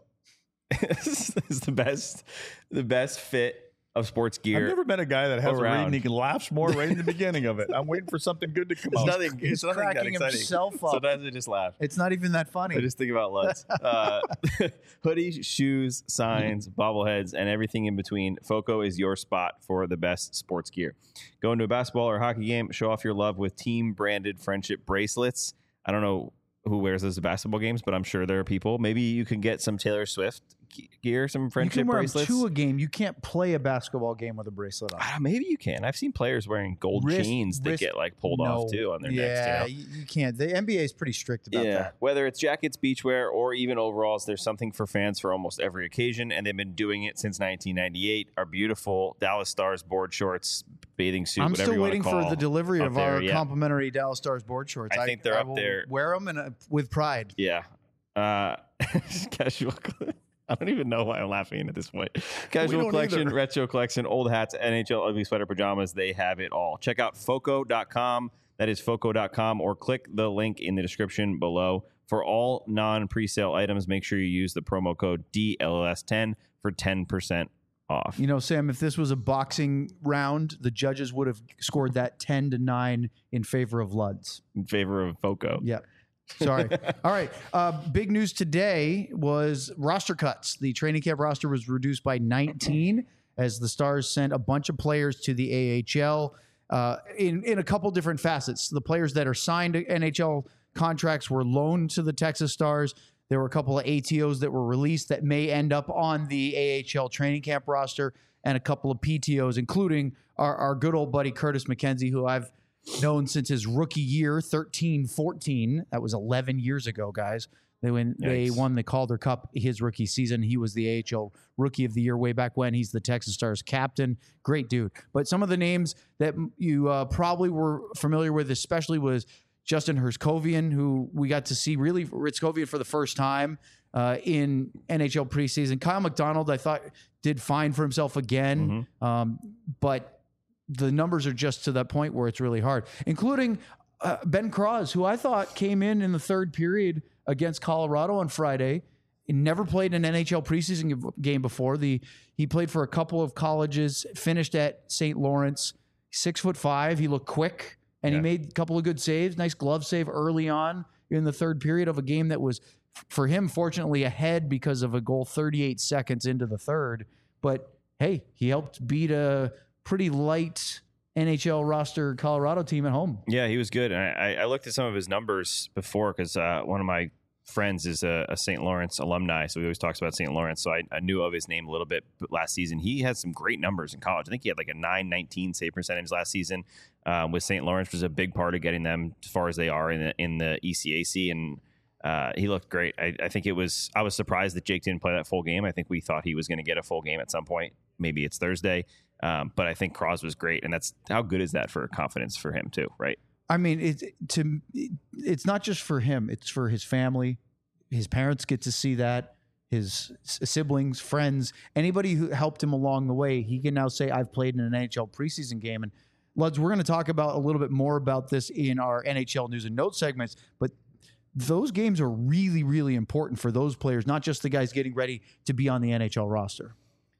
is the best, the best fit of sports gear. I've never been a guy that has around. a read and he can laugh more right in the beginning of it. I'm waiting for something good to come It's out. nothing. He's It's nothing that cracking exciting. himself up. Sometimes I just laugh. It's not even that funny. I just think about Lutz. Uh, hoodies, shoes, signs, bobbleheads, and everything in between. Foco is your spot for the best sports gear. Go into a basketball or hockey game, show off your love with team-branded friendship bracelets. I don't know who wears those at basketball games, but I'm sure there are people. Maybe you can get some Taylor Swift gear, some you friendship can wear bracelets. them to a game. You can't play a basketball game with a bracelet on. Ah, maybe you can. I've seen players wearing gold Wrist- chains that wrist- get like pulled No. off too on their yeah, necks. You know? you, you can't. The N B A is pretty strict about Yeah, that. whether it's jackets, beachwear, or even overalls, there's something for fans for almost every occasion, and they've been doing it since nineteen ninety-eight. Our beautiful Dallas Stars board shorts, bathing suit, I'm whatever still you waiting want to for call the delivery up of there, our yeah. complimentary Dallas Stars board shorts. I think they're up will there. Wear them and uh, with pride. Yeah. Uh, casual. I don't even know why I'm laughing at this point. Casual don't collection, either. retro collection, old hats, N H L ugly sweater pajamas. They have it all. Check out foco dot com. That is foco dot com, or click the link in the description below. For all non-presale items, make sure you use the promo code D L S ten for ten percent off. You know, Sam, if this was a boxing round, the judges would have scored that ten to nine in favor of Luds. In favor of Foco. Yep. Sorry. All right. Uh, big news today was roster cuts. The training camp roster was reduced by nineteen as the Stars sent a bunch of players to the A H L uh, in, in a couple different facets. The players that are signed to N H L contracts were loaned to the Texas Stars. There were a couple of A T Os that were released that may end up on the A H L training camp roster, and a couple of P T Os, including our, our good old buddy Curtis McKenzie, who I've known since his rookie year, thirteen fourteen. That was eleven years ago, guys. They win, they Yikes. won the Calder Cup his rookie season. He was the A H L Rookie of the Year way back when. He's the Texas Stars captain. Great dude. But some of the names that you uh, probably were familiar with, especially, was Justin Hurskovian, who we got to see really Hurskovian for the first time uh, in N H L preseason. Kyle McDonald, I thought, did fine for himself again, Mhm. um, but the numbers are just to that point where it's really hard, including uh, Ben Cross, who I thought came in in the third period against Colorado on Friday. He never played an N H L preseason game before. The He played for a couple of colleges, finished at Saint Lawrence, six foot five. He looked quick, and Yeah. he made a couple of good saves. Nice glove save early on in the third period of a game that was, for him, fortunately ahead because of a goal thirty-eight seconds into the third. But hey, he helped beat a pretty light N H L roster Colorado team at home. Yeah, he was good. And I, I looked at some of his numbers before because uh, one of my friends is a, a Saint Lawrence alumni, so he always talks about Saint Lawrence. So I, I knew of his name a little bit last season. He had some great numbers in college. I think he had like a nine nineteen save percentage last season um, with Saint Lawrence, which was a big part of getting them as far as they are in the, in the E C A C. And uh, he looked great. I, I think it was, I was surprised that Jake didn't play that full game. I think we thought he was going to get a full game at some point. Maybe it's Thursday. Um, but I think Cross was great. And that's, how good is that for confidence for him too, right? I mean, it's to it's not just for him; it's for his family. His parents get to see that. His siblings, friends, anybody who helped him along the way, he can now say, "I've played in an N H L preseason game." And Luds, we're going to talk about a little bit more about this in our N H L news and notes segments. But those games are really, really important for those players, not just the guys getting ready to be on the N H L roster.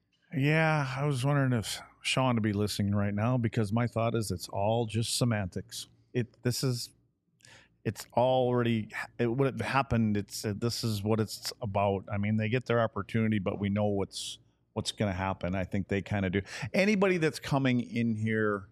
Yeah, I was wondering if Sean to be listening right now, because my thought is it's all just semantics. It this is it's already it would have happened. It's uh, this is what it's about. I mean, they get their opportunity, but we know what's what's going to happen. I think they kind of do. Anybody that's coming in here,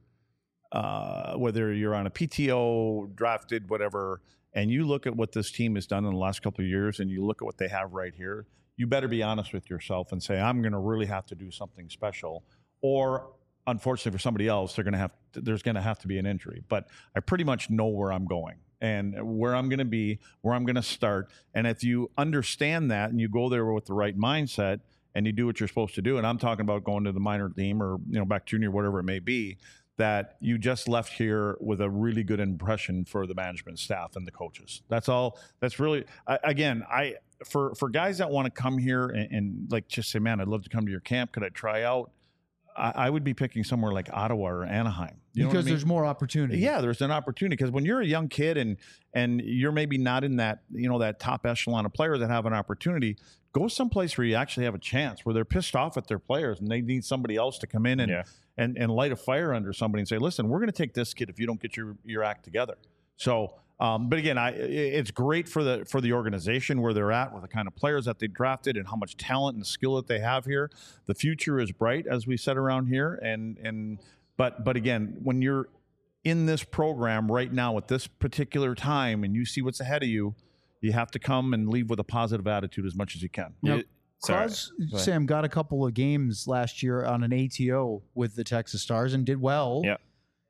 uh, whether you're on a P T O, drafted, whatever, and you look at what this team has done in the last couple of years, and you look at what they have right here, you better be honest with yourself and say, I'm going to really have to do something special. Or unfortunately for somebody else, they're going to have to, there's going to have to be an injury. But I pretty much know where I'm going. and where I'm going to be, where I'm going to start. And if you understand that and you go there with the right mindset and you do what you're supposed to do, and I'm talking about going to the minor team or, you know, back junior, whatever it may be, that you just left here with a really good impression for the management staff and the coaches. That's all. That's really, I, again, I, for, for guys that want to come here and, and like just say, man, I'd love to come to your camp. Could I try out? I, I would be picking somewhere like Ottawa or Anaheim. You know because what I mean? there's more opportunity. Yeah, there's an opportunity because when you're a young kid and and you're maybe not in that, you know, that top echelon of players that have an opportunity, go someplace where you actually have a chance, where they're pissed off at their players and they need somebody else to come in and Yeah. and, and light a fire under somebody and say, listen, we're going to take this kid if you don't get your your act together. So, um, but again, I it's great for the for the organization where they're at with the kind of players that they drafted and how much talent and skill that they have here. The future is bright, as we said around here, and and but but again, when you're in this program right now at this particular time and you see what's ahead of you, you have to come and leave with a positive attitude as much as you can. Now, It- sorry. Crosby, Go ahead. Sam got a couple of games last year on an A T O with the Texas Stars and did well. Yeah.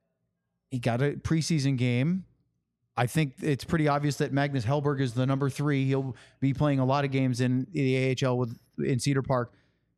He got a preseason game. I think it's pretty obvious that Magnus Hellberg is the number three. He'll be playing a lot of games in the A H L with in Cedar Park.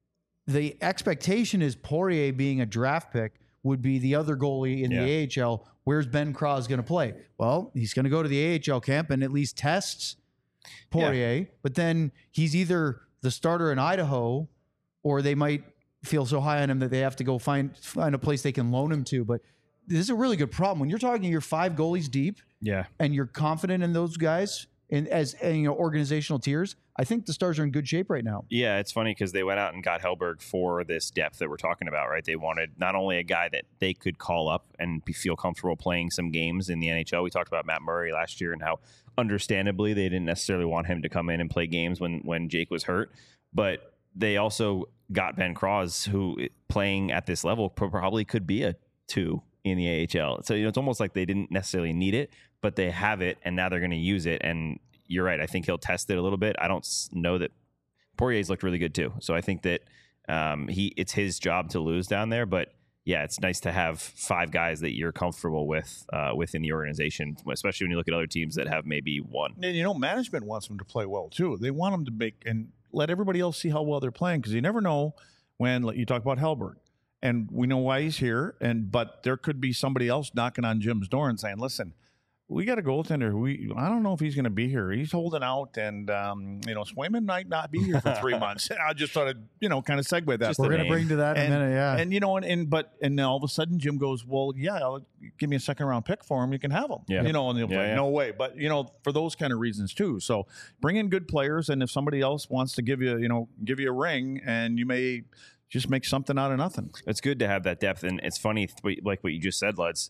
The expectation is Poirier being a draft pick would be the other goalie in Yeah. the A H L. Where's Ben Cross going to play? Well, he's going to go to the A H L camp and at least tests Poirier, but then he's either the starter in Idaho or they might feel so high on him that they have to go find find a place they can loan him to. But this is a really good problem. When you're talking you're five goalies deep Yeah. and you're confident in those guys in as and, you know organizational tiers, I think the Stars are in good shape right now. Yeah, it's funny because they went out and got Hellberg for this depth that we're talking about, right? They wanted not only a guy that they could call up and be, feel comfortable playing some games in the N H L. We talked about Matt Murray last year and how understandably they didn't necessarily want him to come in and play games when when Jake was hurt, but they also got Ben Cross, who playing at this level probably could be a two in the A H L. So, you know, it's almost like they didn't necessarily need it, but they have it and now they're going to use it. And you're right. I think he'll test it a little bit. I don't s- know that Poirier's looked really good too. So I think that um, he it's his job to lose down there. But yeah, it's nice to have five guys that you're comfortable with uh, within the organization, especially when you look at other teams that have maybe one. And you know, management wants them to play well too. They want them to make and let everybody else see how well they're playing because you never know when like, you talk about Hellberg, and we know why he's here. And but there could be somebody else knocking on Jim's door and saying, "Listen, we got a goaltender. We I don't know if he's going to be here. He's holding out, and um, you know, Swayman might not be here for three months." I just thought I'd you know kind of segue that. Just We're the going to name. bring to that in and, a minute. Yeah. and you know, and, and but and then all of a sudden Jim goes, "Well, yeah, I'll, give me a second round pick for him. You can have him." Yeah. You know, and they'll Yeah, play, yeah. no way. But you know, for those kind of reasons too. So bring in good players, and if somebody else wants to give you, you know, give you a ring, and you may just make something out of nothing. It's good to have that depth. And it's funny, th- like what you just said, Luds.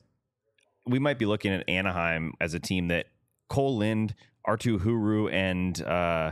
We might be looking at Anaheim as a team that Cole Lind, Artu Huru, and uh,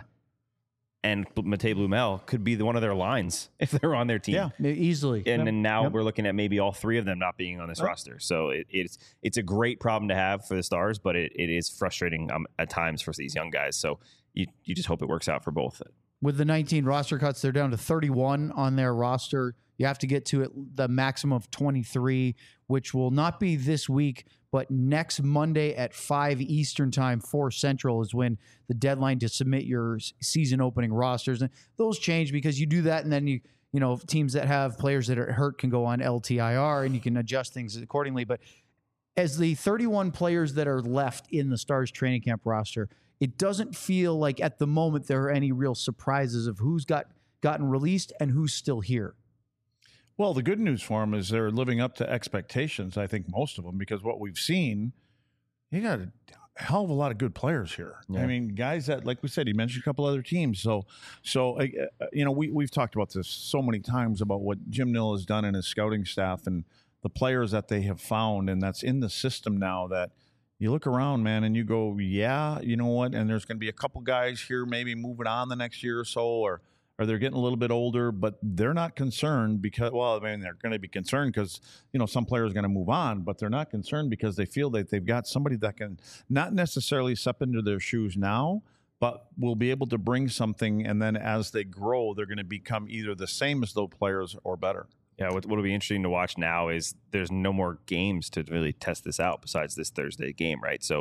and Matej Blumel could be the, one of their lines if they're on their team. Yeah. Easily. And then now Yep. we're looking at maybe all three of them not being on this Right. roster. So it, it's it's a great problem to have for the Stars, but it, it is frustrating um, at times for these young guys. So you you just hope it works out for both. With the nineteen roster cuts, they're down to thirty-one on their roster. You have to get to it, the maximum of twenty-three, which will not be this week, but next Monday at five Eastern time, four Central is when the deadline to submit your s- season opening rosters. And those change because you do that and then you, you know, teams that have players that are hurt can go on L T I R and you can adjust things accordingly. But as the thirty-one players that are left in the Stars training camp roster, it doesn't feel like at the moment there are any real surprises of who's got gotten released and who's still here. Well, the good news for them is they're living up to expectations. I think most of them, because what we've seen, you got a hell of a lot of good players here. Yeah. I mean, guys that, like we said, he mentioned a couple other teams. So, so uh, uh, you know, we we've talked about this so many times about what Jim Nill has done in his scouting staff and the players that they have found, and that's in the system now. That you look around, man, and you go, yeah, you know what? And there's going to be a couple guys here maybe moving on the next year or so, or. Or they're getting a little bit older, but they're not concerned because, well, I mean, they're going to be concerned because, you know, some players are going to move on, but they're not concerned because they feel that they've got somebody that can not necessarily step into their shoes now, but will be able to bring something. And then as they grow, they're going to become either the same as those players or better. Yeah, what will be interesting to watch now is there's no more games to really test this out besides this Thursday game, right? So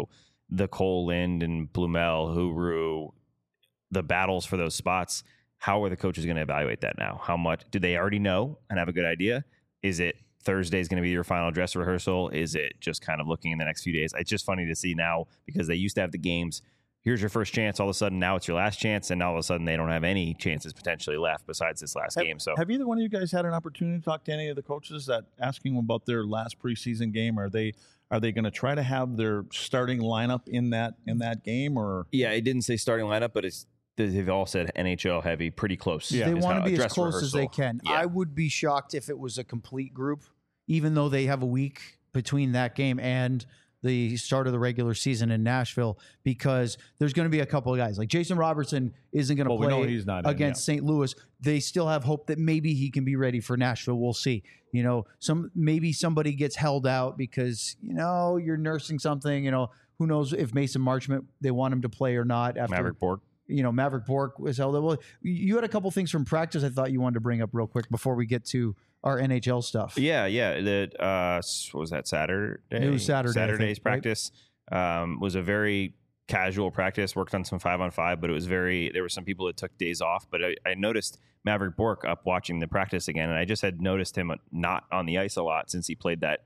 the Cole Lind and Blumel, Huru, the battles for those spots, how are the coaches going to evaluate that now? How much do they already know and have a good idea? Is it Thursday is going to be your final dress rehearsal? Is it just kind of looking in the next few days? It's just funny to see now because they used to have the games. Here's your first chance. All of a sudden, now it's your last chance, and all of a sudden, they don't have any chances potentially left besides this last have, game. So, have either one of you guys had an opportunity to talk to any of the coaches that asking them about their last preseason game? Are they are they going to try to have their starting lineup in that in that game? Or yeah, it didn't say starting lineup, but it's they've all said N H L heavy, pretty close. Yeah. They want to be as close rehearsal. as they can. Yeah. I would be shocked if it was a complete group, even though they have a week between that game and the start of the regular season in Nashville, because there's going to be a couple of guys like Jason Robertson isn't going to well, we know play he's not against in, yeah. Saint Louis. They still have hope that maybe he can be ready for Nashville. We'll see. You know, some maybe somebody gets held out because, you know, you're nursing something. You know, who knows if Mason Marchment, they want him to play or not. After Maverick Bork. You know, Maverick Bork was held out. Well, you had a couple things from practice I thought you wanted to bring up real quick before we get to our N H L stuff. Yeah, yeah. The uh, what was that Saturday? It was Saturday. Saturday's think, practice right? um, was a very casual practice. Worked on some five on five, but it was very. There were some people that took days off. But I, I noticed Maverick Bork up watching the practice again, and I just had noticed him not on the ice a lot since he played that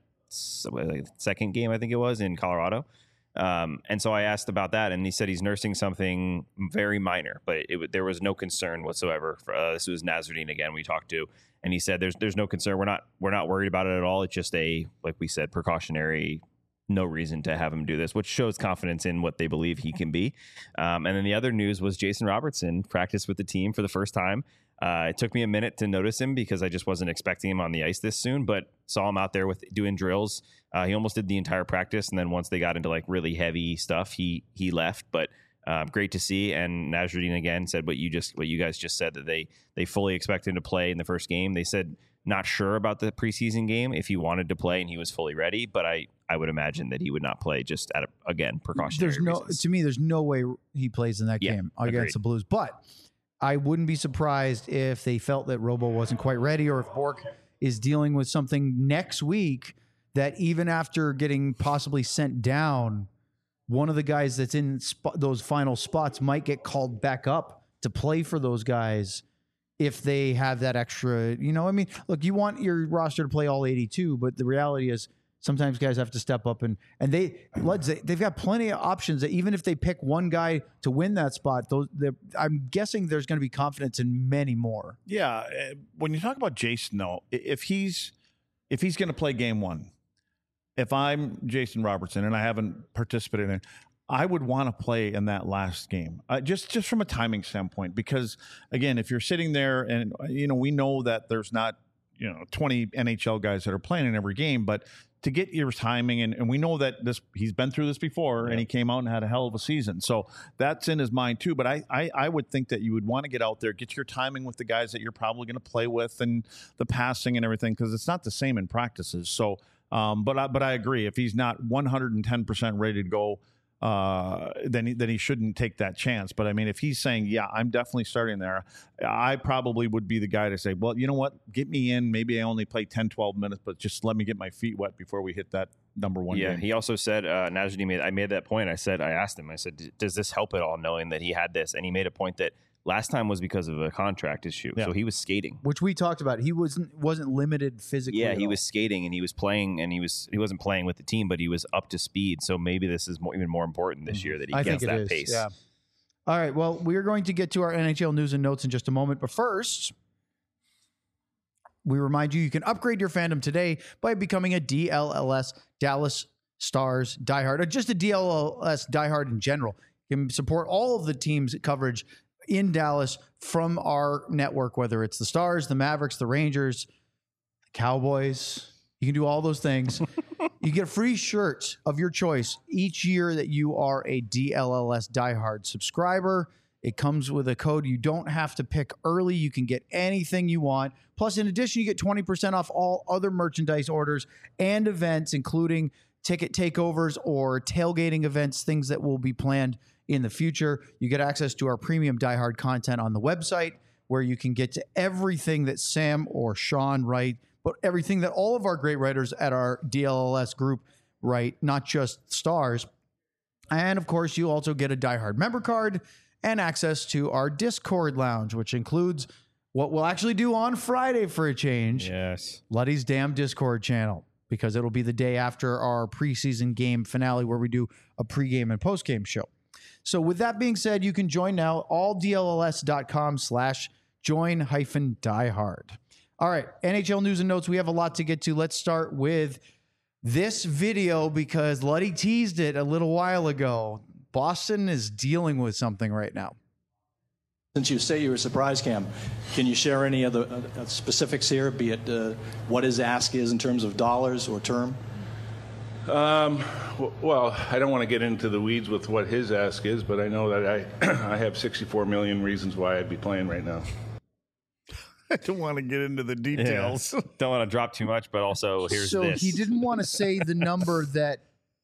second game, I think it was, in Colorado. Um, and so I asked about that, and he said he's nursing something very minor, but it, there was no concern whatsoever. For, uh, this was Nasruddin again we talked to, and he said there's there's no concern. We're not we're not worried about it at all. It's just a, like we said, precautionary. No reason to have him do this, which shows confidence in what they believe he can be. Um, and then the other news was Jason Robertson practiced with the team for the first time. Uh, it took me a minute to notice him because I just wasn't expecting him on the ice this soon, but saw him out there with doing drills. Uh, he almost did the entire practice, and then once they got into like really heavy stuff, he he left. But uh, great to see. And Nasruddin again said what you just what you guys just said, that they they fully expect him to play in the first game. They said not sure about the preseason game if he wanted to play and he was fully ready, but I I would imagine that he would not play just at a, again precautionary There's no reasons. To me, there's no way he plays in that Yeah, game agreed. against the Blues, but I wouldn't be surprised if they felt that Robo wasn't quite ready, or if Bork is dealing with something next week that even after getting possibly sent down, one of the guys that's in sp- those final spots might get called back up to play for those guys if they have that extra, you know, I mean, look, you want your roster to play all eighty-two, but the reality is sometimes guys have to step up, and and they Leds, they, they've got plenty of options that even if they pick one guy to win that spot, those I'm guessing there's going to be confidence in many more. Yeah, uh, when you talk about Jason, though, i- if he's if he's going to play game one, if I'm Jason Robertson and I haven't participated in it, I would want to play in that last game, uh, just just from a timing standpoint, because again, if you're sitting there and you know we know that there's not you know twenty N H L guys that are playing in every game, but to get your timing, and, and we know that this he's been through this before, yeah. and he came out and had a hell of a season. So that's in his mind too. But I, I, I would think that you would want to get out there, get your timing with the guys that you're probably going to play with, and the passing and everything, because it's not the same in practices. So, um, but I, but I agree. If he's not one hundred ten percent ready to go, uh, then he, then he shouldn't take that chance. But I mean, if he's saying, yeah, I'm definitely starting there, I probably would be the guy to say, well, you know what, get me in. Maybe I only play ten, twelve minutes, but just let me get my feet wet before we hit that number one yeah, game. He also said, uh, Nasruddin made, I made that point. I said, I asked him, I said, does this help at all knowing that he had this? And he made a point that last time was because of a contract issue. Yeah. So he was skating. Which we talked about. He wasn't wasn't limited physically. Yeah, at he all. was skating and he was playing, and he was he wasn't playing with the team, but he was up to speed. So maybe this is more, even more important this year that he I gets think it that is, pace. Yeah. All right. Well, we are going to get to our N H L news and notes in just a moment. But first, we remind you you can upgrade your fandom today by becoming a D L L S Dallas Stars diehard, or just a D L L S diehard in general. You can support all of the team's coverage in Dallas from our network, whether it's the Stars, the Mavericks, the Rangers, the Cowboys. You can do all those things. You get a free shirt of your choice each year that you are a D L L S diehard subscriber. It comes with a code. You don't have to pick early. You can get anything you want. Plus, in addition, you get twenty percent off all other merchandise orders and events, including ticket takeovers or tailgating events, things that will be planned in the future. You get access to our premium diehard content on the website, where you can get to everything that Sam or Sean write, but everything that all of our great writers at our D L L S group write, not just Stars. And of course, you also get a Die Hard member card and access to our Discord lounge, which includes what we'll actually do on Friday for a change. Yes. Luddy's damn Discord channel, because it'll be the day after our preseason game finale where we do a pregame and postgame show. So with that being said, you can join now, alldls.com slash join hyphen diehard. All right, N H L news and notes. We have a lot to get to. Let's start with this video because Luddy teased it a little while ago. Boston is dealing with something right now. Since you say you were surprised, Cam, can you share any other uh, specifics here, be it uh, what his ask is in terms of dollars or term? Um, w- well, I don't want to get into the weeds with what his ask is, but I know that I, I have sixty-four million reasons why I'd be playing right now. I don't want to get into the details. Yeah. Don't want to drop too much, but also here's so this. he didn't want to say the number that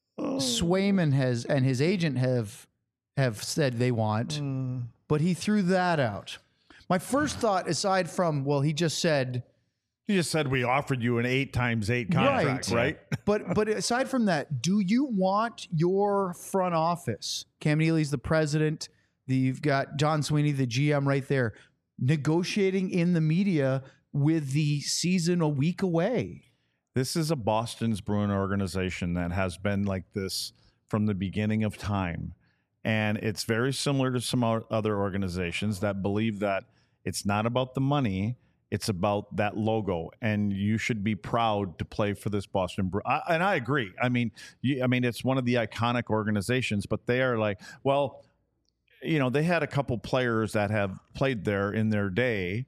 Swayman has and his agent have have said they want, mm. but he threw that out. My first thought, aside from, well, he just said... He just said we offered you an eight times eight contract, right? right? but but aside from that, do you want your front office, Cam Neely's the president, the, you've got John Sweeney, the G M right there, negotiating in the media with the season a week away? This is a Boston's Bruin organization that has been like this from the beginning of time. And it's very similar to some other organizations that believe that it's not about the money, it's about that logo. And you should be proud to play for this Boston Bruin. I, and I agree. I mean, you, I mean, it's one of the iconic organizations, but they are like, well, you know, they had a couple players that have played there in their day,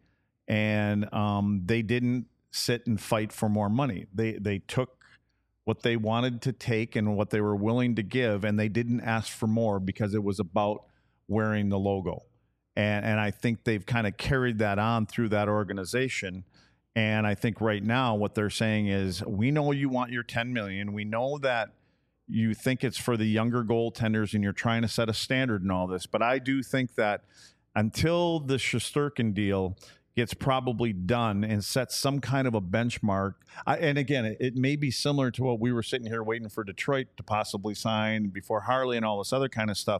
and um, they didn't sit and fight for more money. They they took what they wanted to take and what they were willing to give, and they didn't ask for more because it was about wearing the logo. And and I think they've kind of carried that on through that organization. And I think right now what they're saying is, we know you want your ten million dollars. We know that you think it's for the younger goaltenders and you're trying to set a standard and all this. But I do think that until the Shesterkin deal gets probably done and sets some kind of a benchmark, I, and again, it, it may be similar to what we were sitting here waiting for Detroit to possibly sign before Harley and all this other kind of stuff.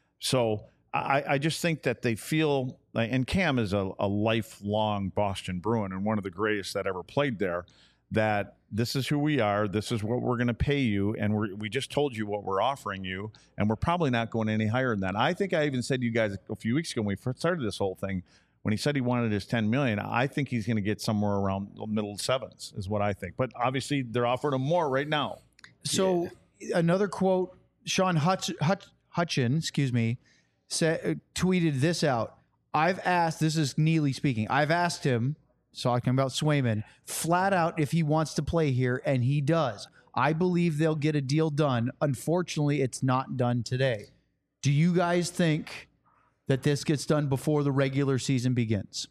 So I, I just think that they feel, like, and Cam is a, a lifelong Boston Bruin and one of the greatest that ever played there, that this is who we are, this is what we're going to pay you, and we we just told you what we're offering you, and we're probably not going any higher than that. I think I even said to you guys a few weeks ago when we first started this whole thing, when he said he wanted his ten million dollars, I think he's going to get somewhere around the middle sevens is what I think. But obviously they're offering him more right now. So yeah. Another quote, Sean Hutch, Hutch, Hutchin, excuse me, said, uh, tweeted this out. I've asked, this is Neely speaking, I've asked him, talking about Swayman, flat out if he wants to play here, and he does. I believe they'll get a deal done. Unfortunately, it's not done today. Do you guys think that this gets done before the regular season begins?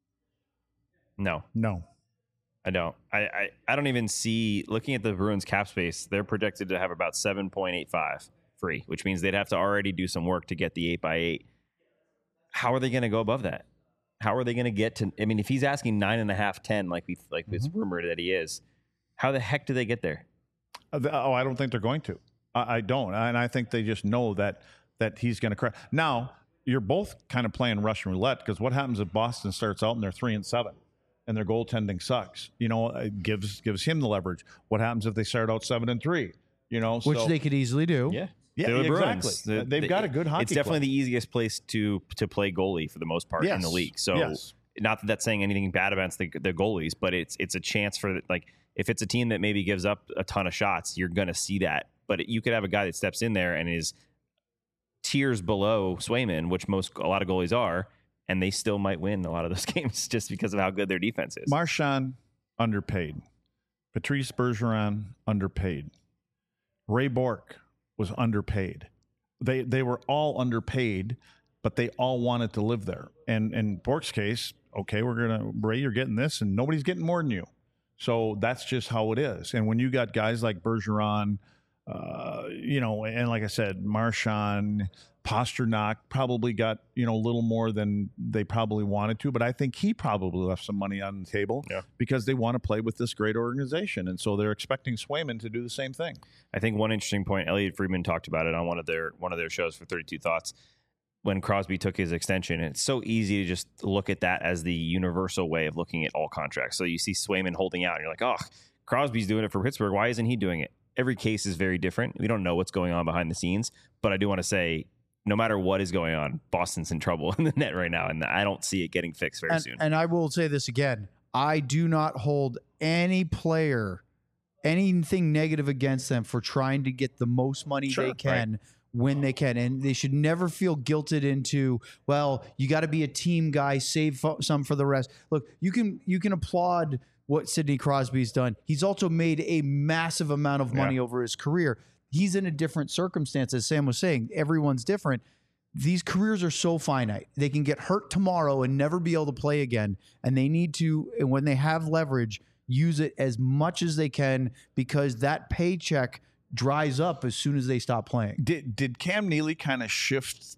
No. No. I don't. I, I, I don't even see, looking at the Bruins cap space, they're projected to have about seven point eight five free, which means they'd have to already do some work to get the eight by eight. How are they going to go above that? How are they going to get to, I mean, if he's asking nine and a half, ten, like we, like mm-hmm. it's rumored that he is, how the heck do they get there? Oh, I don't think they're going to. I, I don't. And I think they just know that, that he's going to crack. Now, you're both kind of playing Russian roulette, because what happens if Boston starts out and they're three and seven and their goaltending sucks? You know, it gives, gives him the leverage. What happens if they start out seven and three? You know, which so, they could easily do. Yeah. Yeah, the exactly. The, They've the, got a good hockey It's definitely club. the easiest place to to play goalie for the most part yes. in the league. So, yes. not that that's saying anything bad about the, the goalies, but it's it's a chance for, like, if it's a team that maybe gives up a ton of shots, you're going to see that. But it, you could have a guy that steps in there and is tiers below Swayman, which most a lot of goalies are, and they still might win a lot of those games just because of how good their defense is. Marchand, underpaid. Patrice Bergeron, underpaid. Ray Bourque was underpaid. They they were all underpaid, but they all wanted to live there. And in Bourque's case, okay, we're gonna Ray, you're getting this, and nobody's getting more than you. So that's just how it is. And when you got guys like Bergeron, uh, you know, and like I said, Marchand, Pasternak probably got, you know, a little more than they probably wanted to, but I think he probably left some money on the table yeah. because they want to play with this great organization. And so they're expecting Swayman to do the same thing. I think one interesting point, Elliot Friedman talked about it on one of their one of their shows for thirty-two Thoughts when Crosby took his extension. And it's so easy to just look at that as the universal way of looking at all contracts. So you see Swayman holding out and you're like, oh, Crosby's doing it for Pittsburgh. Why isn't he doing it? Every case is very different. We don't know what's going on behind the scenes, but I do want to say, no matter what is going on, Boston's in trouble in the net right now, and I don't see it getting fixed very and, soon. And I will say this again. I do not hold any player, anything negative against them for trying to get the most money Sure, they can right. when they can. And they should never feel guilted into, well, you got to be a team guy, save fo- some for the rest. Look, you can you can applaud what Sidney Crosby's done. He's also made a massive amount of money Yeah. over his career. He's in a different circumstance, as Sam was saying. Everyone's different. These careers are so finite. They can get hurt tomorrow and never be able to play again. And they need to, and when they have leverage, use it as much as they can because that paycheck dries up as soon as they stop playing. Did did Cam Neely kind of shift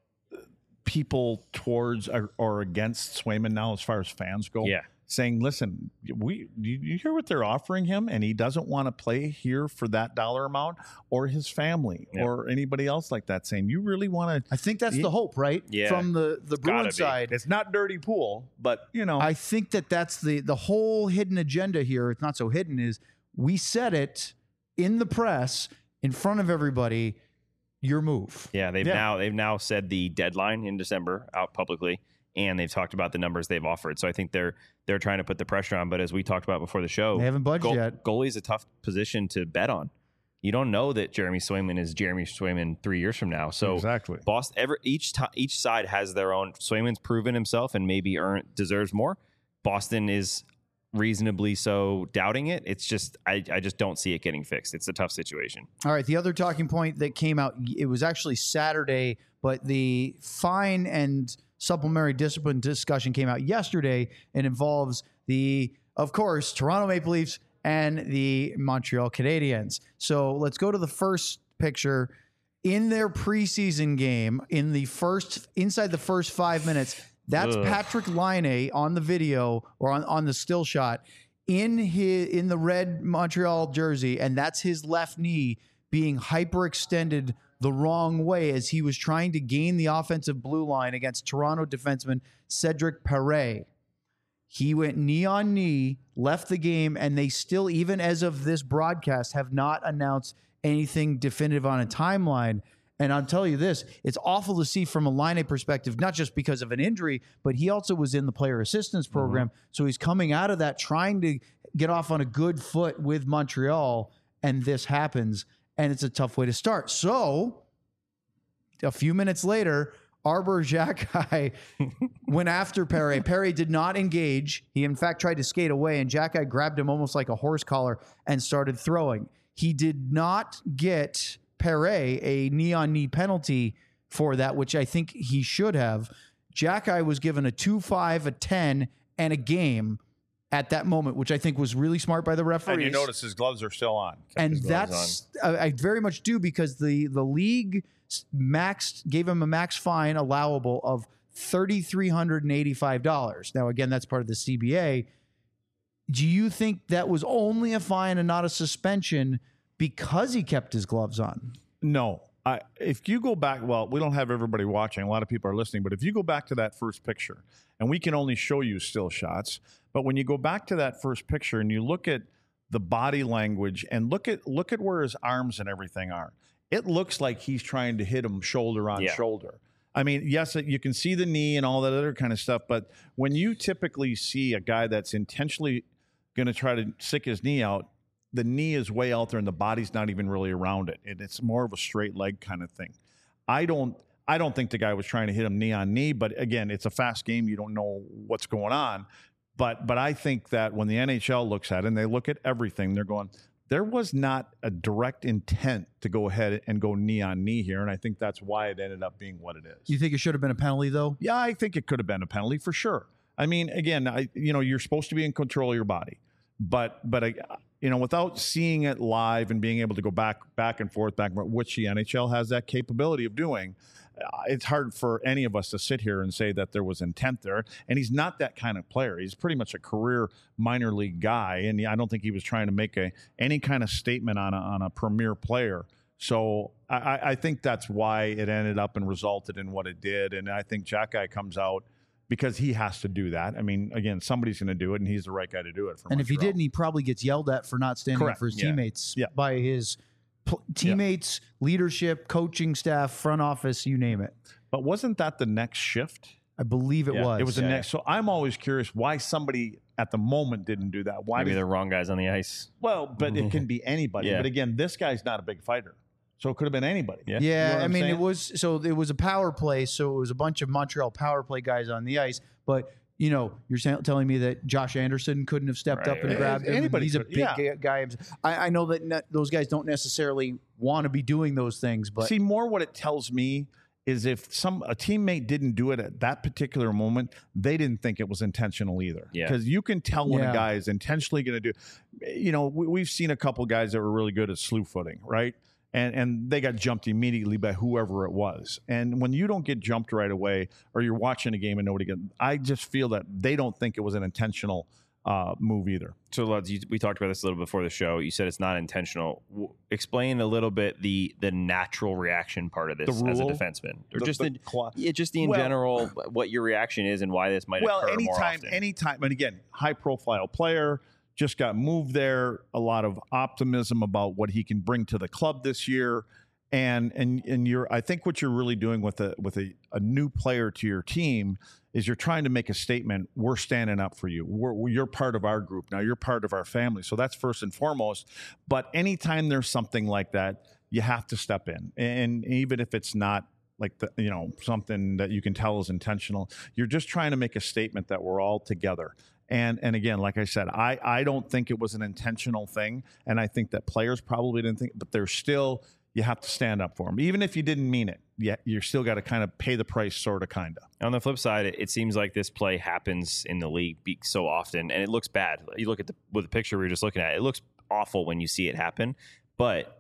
people towards or, or against Swayman now as far as fans go? Yeah. Saying, listen, we you, you hear what they're offering him, and he doesn't want to play here for that dollar amount, or his family, Yeah. or anybody else like that. Saying, you really want to? I think that's the hope, right? Yeah. From the, the gotta Bruin be. side. It's not dirty pool, but you know, I think that that's the the whole hidden agenda here. It's not so hidden. Is we said it in the press in front of everybody. Your move. Yeah, they've Yeah. now they've now said the deadline in December out publicly, and they've talked about the numbers they've offered. So I think they're they're trying to put the pressure on. But as we talked about before the show, They haven't budged goal, yet. Goalie's a tough position to bet on. You don't know that Jeremy Swayman is Jeremy Swayman three years from now. So exactly. Boston, every each time each side has their own. Swayman's proven himself and maybe earned deserves more. Boston is reasonably so doubting it. It's just I, I just don't see it getting fixed. It's a tough situation. All right. The other talking point that came out, it was actually Saturday, but the fine and supplementary discipline discussion came out yesterday and involves the, of course, Toronto Maple Leafs and the Montreal Canadiens. So let's go to the first picture. In their preseason game, in the first, inside the first five minutes, that's Ugh. Patrick Laine on the video or on, on the still shot in his in the red Montreal jersey, and that's his left knee being hyperextended the wrong way as he was trying to gain the offensive blue line against Toronto defenseman Cedric Perret. He went knee on knee, left the game, and they still, even as of this broadcast, have not announced anything definitive on a timeline. And I'll tell you this, it's awful to see from a Laine perspective, not just because of an injury, but he also was in the player assistance program. Mm-hmm. So he's coming out of that trying to get off on a good foot with Montreal, and this happens, and it's a tough way to start. So a few minutes later, Arbor Xhekaj went after Perret. Perret did not engage. He, in fact, tried to skate away, and Xhekaj grabbed him almost like a horse collar and started throwing. He did not get Perret a knee-on-knee penalty for that, which I think he should have. Xhekaj was given a two five, a ten, and a game at that moment, which I think was really smart by the referees. and you notice his gloves are still on. And his gloves that's I, I very much do because the the league maxed gave him a max fine allowable of three thousand three hundred eighty-five dollars. Now, again, that's part of the C B A. Do you think that was only a fine and not a suspension because he kept his gloves on? No. I, if you go back, well, we don't have everybody watching. A lot of people are listening. But if you go back to that first picture, and we can only show you still shots, but when you go back to that first picture and you look at the body language and look at look at where his arms and everything are, it looks like he's trying to hit him shoulder on Yeah. shoulder. I mean, yes, you can see the knee and all that other kind of stuff, but when you typically see a guy that's intentionally going to try to stick his knee out, the knee is way out there and the body's not even really around it. And it's more of a straight leg kind of thing. I don't I don't think the guy was trying to hit him knee on knee, but again, it's a fast game. You don't know what's going on. But but I think that when the N H L looks at it and they look at everything, they're going, there was not a direct intent to go ahead and go knee on knee here. And I think that's why it ended up being what it is. You think it should have been a penalty, though? Yeah, I think it could have been a penalty for sure. I mean, again, I you know, you're supposed to be in control of your body. But but I, you know, without seeing it live and being able to go back back and forth, back and forth, which the N H L has that capability of doing, uh, it's hard for any of us to sit here and say that there was intent there. And he's not that kind of player. He's pretty much a career minor league guy, and I don't think he was trying to make a any kind of statement on a, on a premier player. So I, I think that's why it ended up and resulted in what it did. And I think Jack Guy comes out because he has to do that. I mean, again, somebody's going to do it, and he's the right guy to do it. For and if he Montreal. didn't, he probably gets yelled at for not standing Correct. up for his Yeah. teammates Yeah. by his pl- teammates, leadership, coaching staff, front office, you name it. But wasn't that the next shift? I believe it Yeah, was. It was the Yeah. next. So I'm always curious why somebody at the moment didn't do that. Why Maybe did, the wrong guys on the ice. well, but it can be anybody. Yeah. But again, this guy's not a big fighter. So it could have been anybody. Yeah. Yeah, You know what I I'm mean, saying? it was so it was a power play, so it was a bunch of Montreal power play guys on the ice. But you know, you're sa- telling me that Josh Anderson couldn't have stepped Right, up and right. grabbed him. and Anybody He's a could- big yeah. ga- guy. I, I know that ne- those guys don't necessarily want to be doing those things, but See, more what it tells me is if some a teammate didn't do it at that particular moment, they didn't think it was intentional either. Yeah. Because you can tell when Yeah. a guy is intentionally going to do. You know, we, we've seen a couple guys that were really good at slew footing, right? And and they got jumped immediately by whoever it was. And when you don't get jumped right away, or you're watching a game and nobody get, I just feel that they don't think it was an intentional uh, move either. So, Luds, you, we talked about this a little before the show. You said it's not intentional. W- explain a little bit the the natural reaction part of this The as a rule? defenseman, or The- just the the, cla- yeah, just the in Well- general what your reaction is and why this might Well, occur more anytime, often. anytime, and again, high profile player, just got moved there. A lot of optimism about what he can bring to the club this year, and and and you're. I think what you're really doing with a with a, a new player to your team is you're trying to make a statement. We're standing up for you. We're, you're part of our group now. You're part of our family. So that's first and foremost. But anytime there's something like that, you have to step in, and even if it's not like the, you know, something that you can tell is intentional, you're just trying to make a statement that we're all together. And and again, like I said, I, I don't think it was an intentional thing. And I think that players probably didn't think, but there's still, you have to stand up for them. Even if you didn't mean it, yeah, you're still got to kind of pay the price, sort of, kind of. On the flip side, it, it seems like this play happens in the league be- so often, and it looks bad. You look at the with the picture we were just looking at; it looks awful when you see it happen. But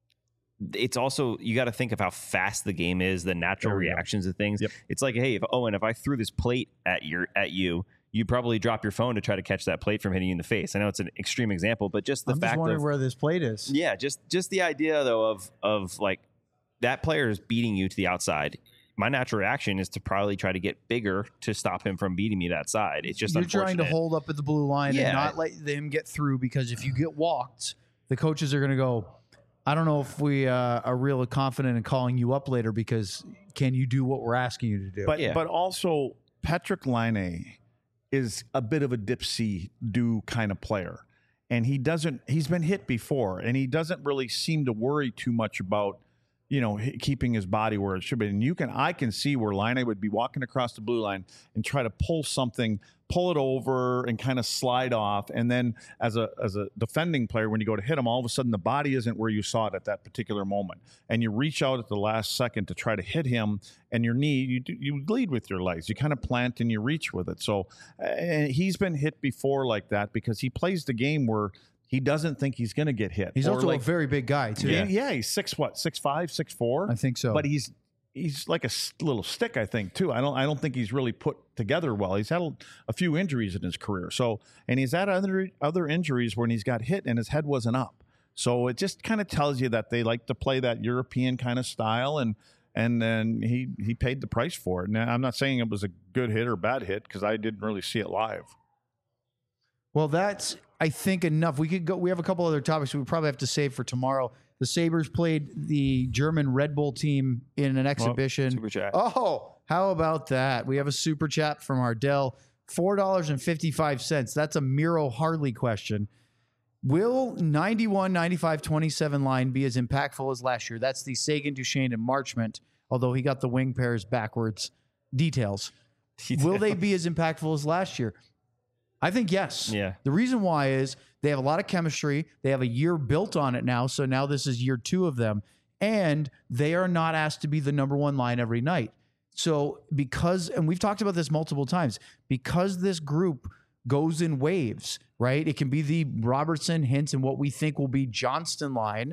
it's also, you got to think of how fast the game is, the natural Oh, yeah. reactions of things. Yep. It's like, hey, if Owen, if I threw this plate at your at you, you'd probably drop your phone to try to catch that plate from hitting you in the face. I know it's an extreme example, but just the I'm just fact wondering of where this plate is. yeah, just just the idea though of of like that player is beating you to the outside. My natural reaction is to probably try to get bigger to stop him from beating me that side. It's just You're trying to unfortunate. hold up at the blue line Yeah. and not let them get through, because if you get walked, the coaches are going to go, I don't know if we uh, are really confident in calling you up later, because can you do what we're asking you to do? But Yeah. but also, Patrick Laine is a bit of a dipsy do kind of player. And he doesn't, he's been hit before, and he doesn't really seem to worry too much about, you know, h- keeping his body where it should be. And you can, I can see where Laine would be walking across the blue line and try to pull something, pull it over and kind of slide off. And then as a, as a defending player, when you go to hit him, all of a sudden the body isn't where you saw it at that particular moment. And you reach out at the last second to try to hit him, and your knee, you, do- you lead with your legs. You kind of plant and you reach with it. So uh, and he's been hit before like that because he plays the game where he doesn't think he's going to get hit. He's Or also like, a very big guy, too. yeah. yeah, he's six what, six five, six four. I think so. But he's he's like a s- little stick, I think, too. I don't I don't think he's really put together well. He's had a, a few injuries in his career. So and he's had other other injuries when he's got hit and his head wasn't up. So it just kind of tells you that they like to play that European kind of style, and and then he he paid the price for it. Now I'm not saying it was a good hit or bad hit because I didn't really see it live. Well, that's, I think, enough. We could go. We have a couple other topics we probably have to save for tomorrow. The Sabres played the German Red Bull team in an exhibition. Super chat. Oh, how about that? We have a super chat from Ardell, four dollars and fifty-five cents. That's a Miro Harley question. Will ninety-one, ninety-five, twenty-seven line be as impactful as last year? That's the Sagan, Duchesne, and Marchment, although he got the wing pairs backwards. Details. Will they be as impactful as last year? I think yes. Yeah. The reason why is they have a lot of chemistry. They have a year built on it now. So now this is year two of them. And they are not asked to be the number one line every night. So because, and we've talked about this multiple times, because this group goes in waves, right? It can be the Robertson, Hintz, and what we think will be Johnston line.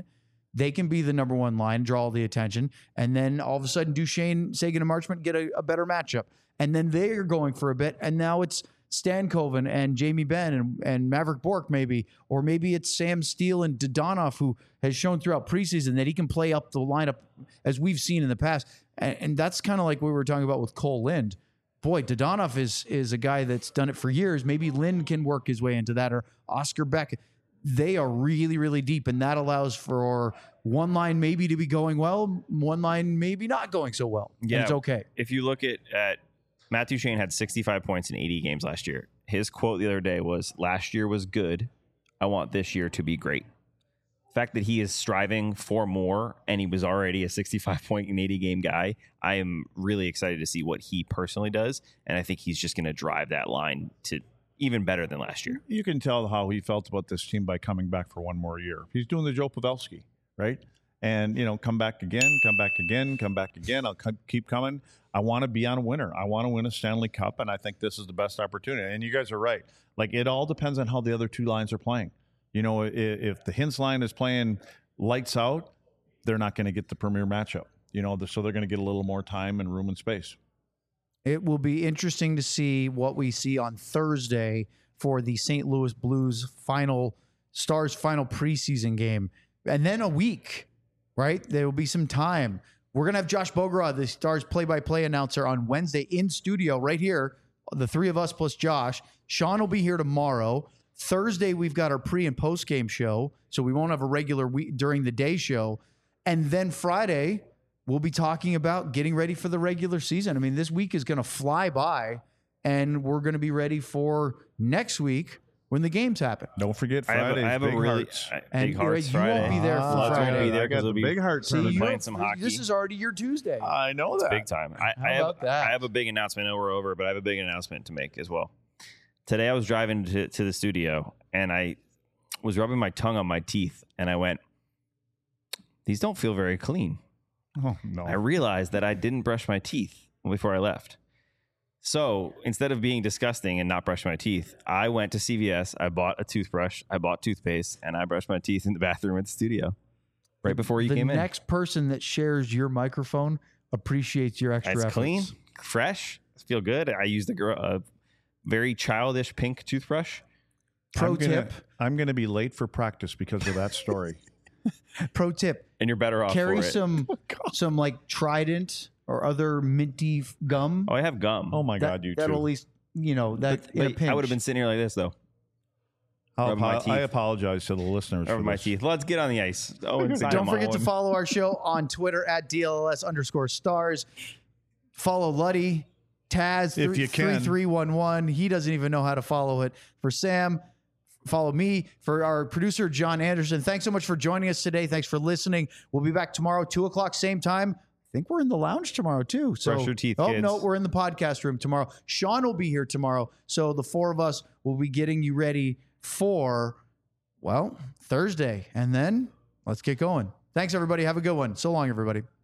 They can be the number one line, draw all the attention, and then all of a sudden Duchesne, Sagan, and Marchment get a, a better matchup. And then they're going for a bit, and now it's Stankoven and Jamie Benn and, and Maverick Bourque maybe, or maybe it's Sam Steele and Dodonov, who has shown throughout preseason that he can play up the lineup as we've seen in the past. And, and that's kind of like what we were talking about with Cole Lind. Boy, Dodonov is is a guy that's done it for years. Maybe Lind can work his way into that, or Oscar Beck. They are really, really deep, and that allows for one line maybe to be going well, one line maybe not going so well. Yeah, and it's okay. If you look at, at Matt Duchesne had sixty-five points in eighty games last year. His quote the other day was, last year was good. I want this year to be great. The fact that he is striving for more and he was already a sixty-five point in eighty game guy, I am really excited to see what he personally does. And I think he's just going to drive that line to even better than last year. You can tell how he felt about this team by coming back for one more year. He's doing the Joe Pavelski, right? And, you know, come back again, come back again, come back again. I'll keep coming. I want to be on a winner. I want to win a Stanley Cup, and I think this is the best opportunity. And you guys are right. Like, it all depends on how the other two lines are playing. You know, if, if the Hintz line is playing lights out, they're not going to get the premier matchup. You know, so they're going to get a little more time and room and space. It will be interesting to see what we see on Thursday for the Saint Louis Blues final Stars final preseason game. And then a week, right? There will be some time. We're going to have Josh Bograd, the Stars play-by-play announcer, on Wednesday in studio right here, the three of us plus Josh. Sean will be here tomorrow. Thursday, we've got our pre- and post-game show, so we won't have a regular week during the day show. And then Friday, we'll be talking about getting ready for the regular season. I mean, this week is going to fly by, and we're going to be ready for next week when the games happen. Don't forget I have, Fridays, a, I have Big a really Hearts. I- And big hearts you Friday. won't be there for Ah, Friday. I'll be there I got because the it'll be Big Hearts. See, We're you playing don't- some hockey. This is already your Tuesday. I know that. big time. I, How I have, about that? I have a big announcement. I know we're over, but I have a big announcement to make as well. Today I was driving to, to the studio, and I was rubbing my tongue on my teeth, and I went, these don't feel very clean. Oh, no. I realized that I didn't brush my teeth before I left. So instead of being disgusting and not brushing my teeth, I went to C V S, I bought a toothbrush, I bought toothpaste, and I brushed my teeth in the bathroom at the studio right before you the came in. The next person that shares your microphone appreciates your extra It's efforts. clean, fresh, feel good. I used a, gr- a very childish pink toothbrush. Pro I'm gonna, tip. I'm going to be late for practice because of that story. Pro tip. And you're better off Carry for it. some some like Trident or other minty f- gum. Oh, I have gum. Oh, my That- God, you that'll at too. least, you know, that But, in a but pinch. I would have been sitting here like this, though. I'll rubbing my apo- teeth. I apologize to the listeners Over for my this. teeth. Let's get on the ice. Oh, and Don't forget to follow our show on Twitter at D L L S underscore stars. Follow Luddy, Taz, If you can. three three one one. He doesn't even know how to follow it. For Sam, follow me. For our producer, John Anderson, thanks so much for joining us today. Thanks for listening. We'll be back tomorrow, two o'clock, same time. I think we're in the lounge tomorrow, too. So, Brush your teeth, Oh, kids. no, we're in the podcast room tomorrow. Sean will be here tomorrow. So the four of us will be getting you ready for, well, Thursday. And then let's get going. Thanks, everybody. Have a good one. So long, everybody.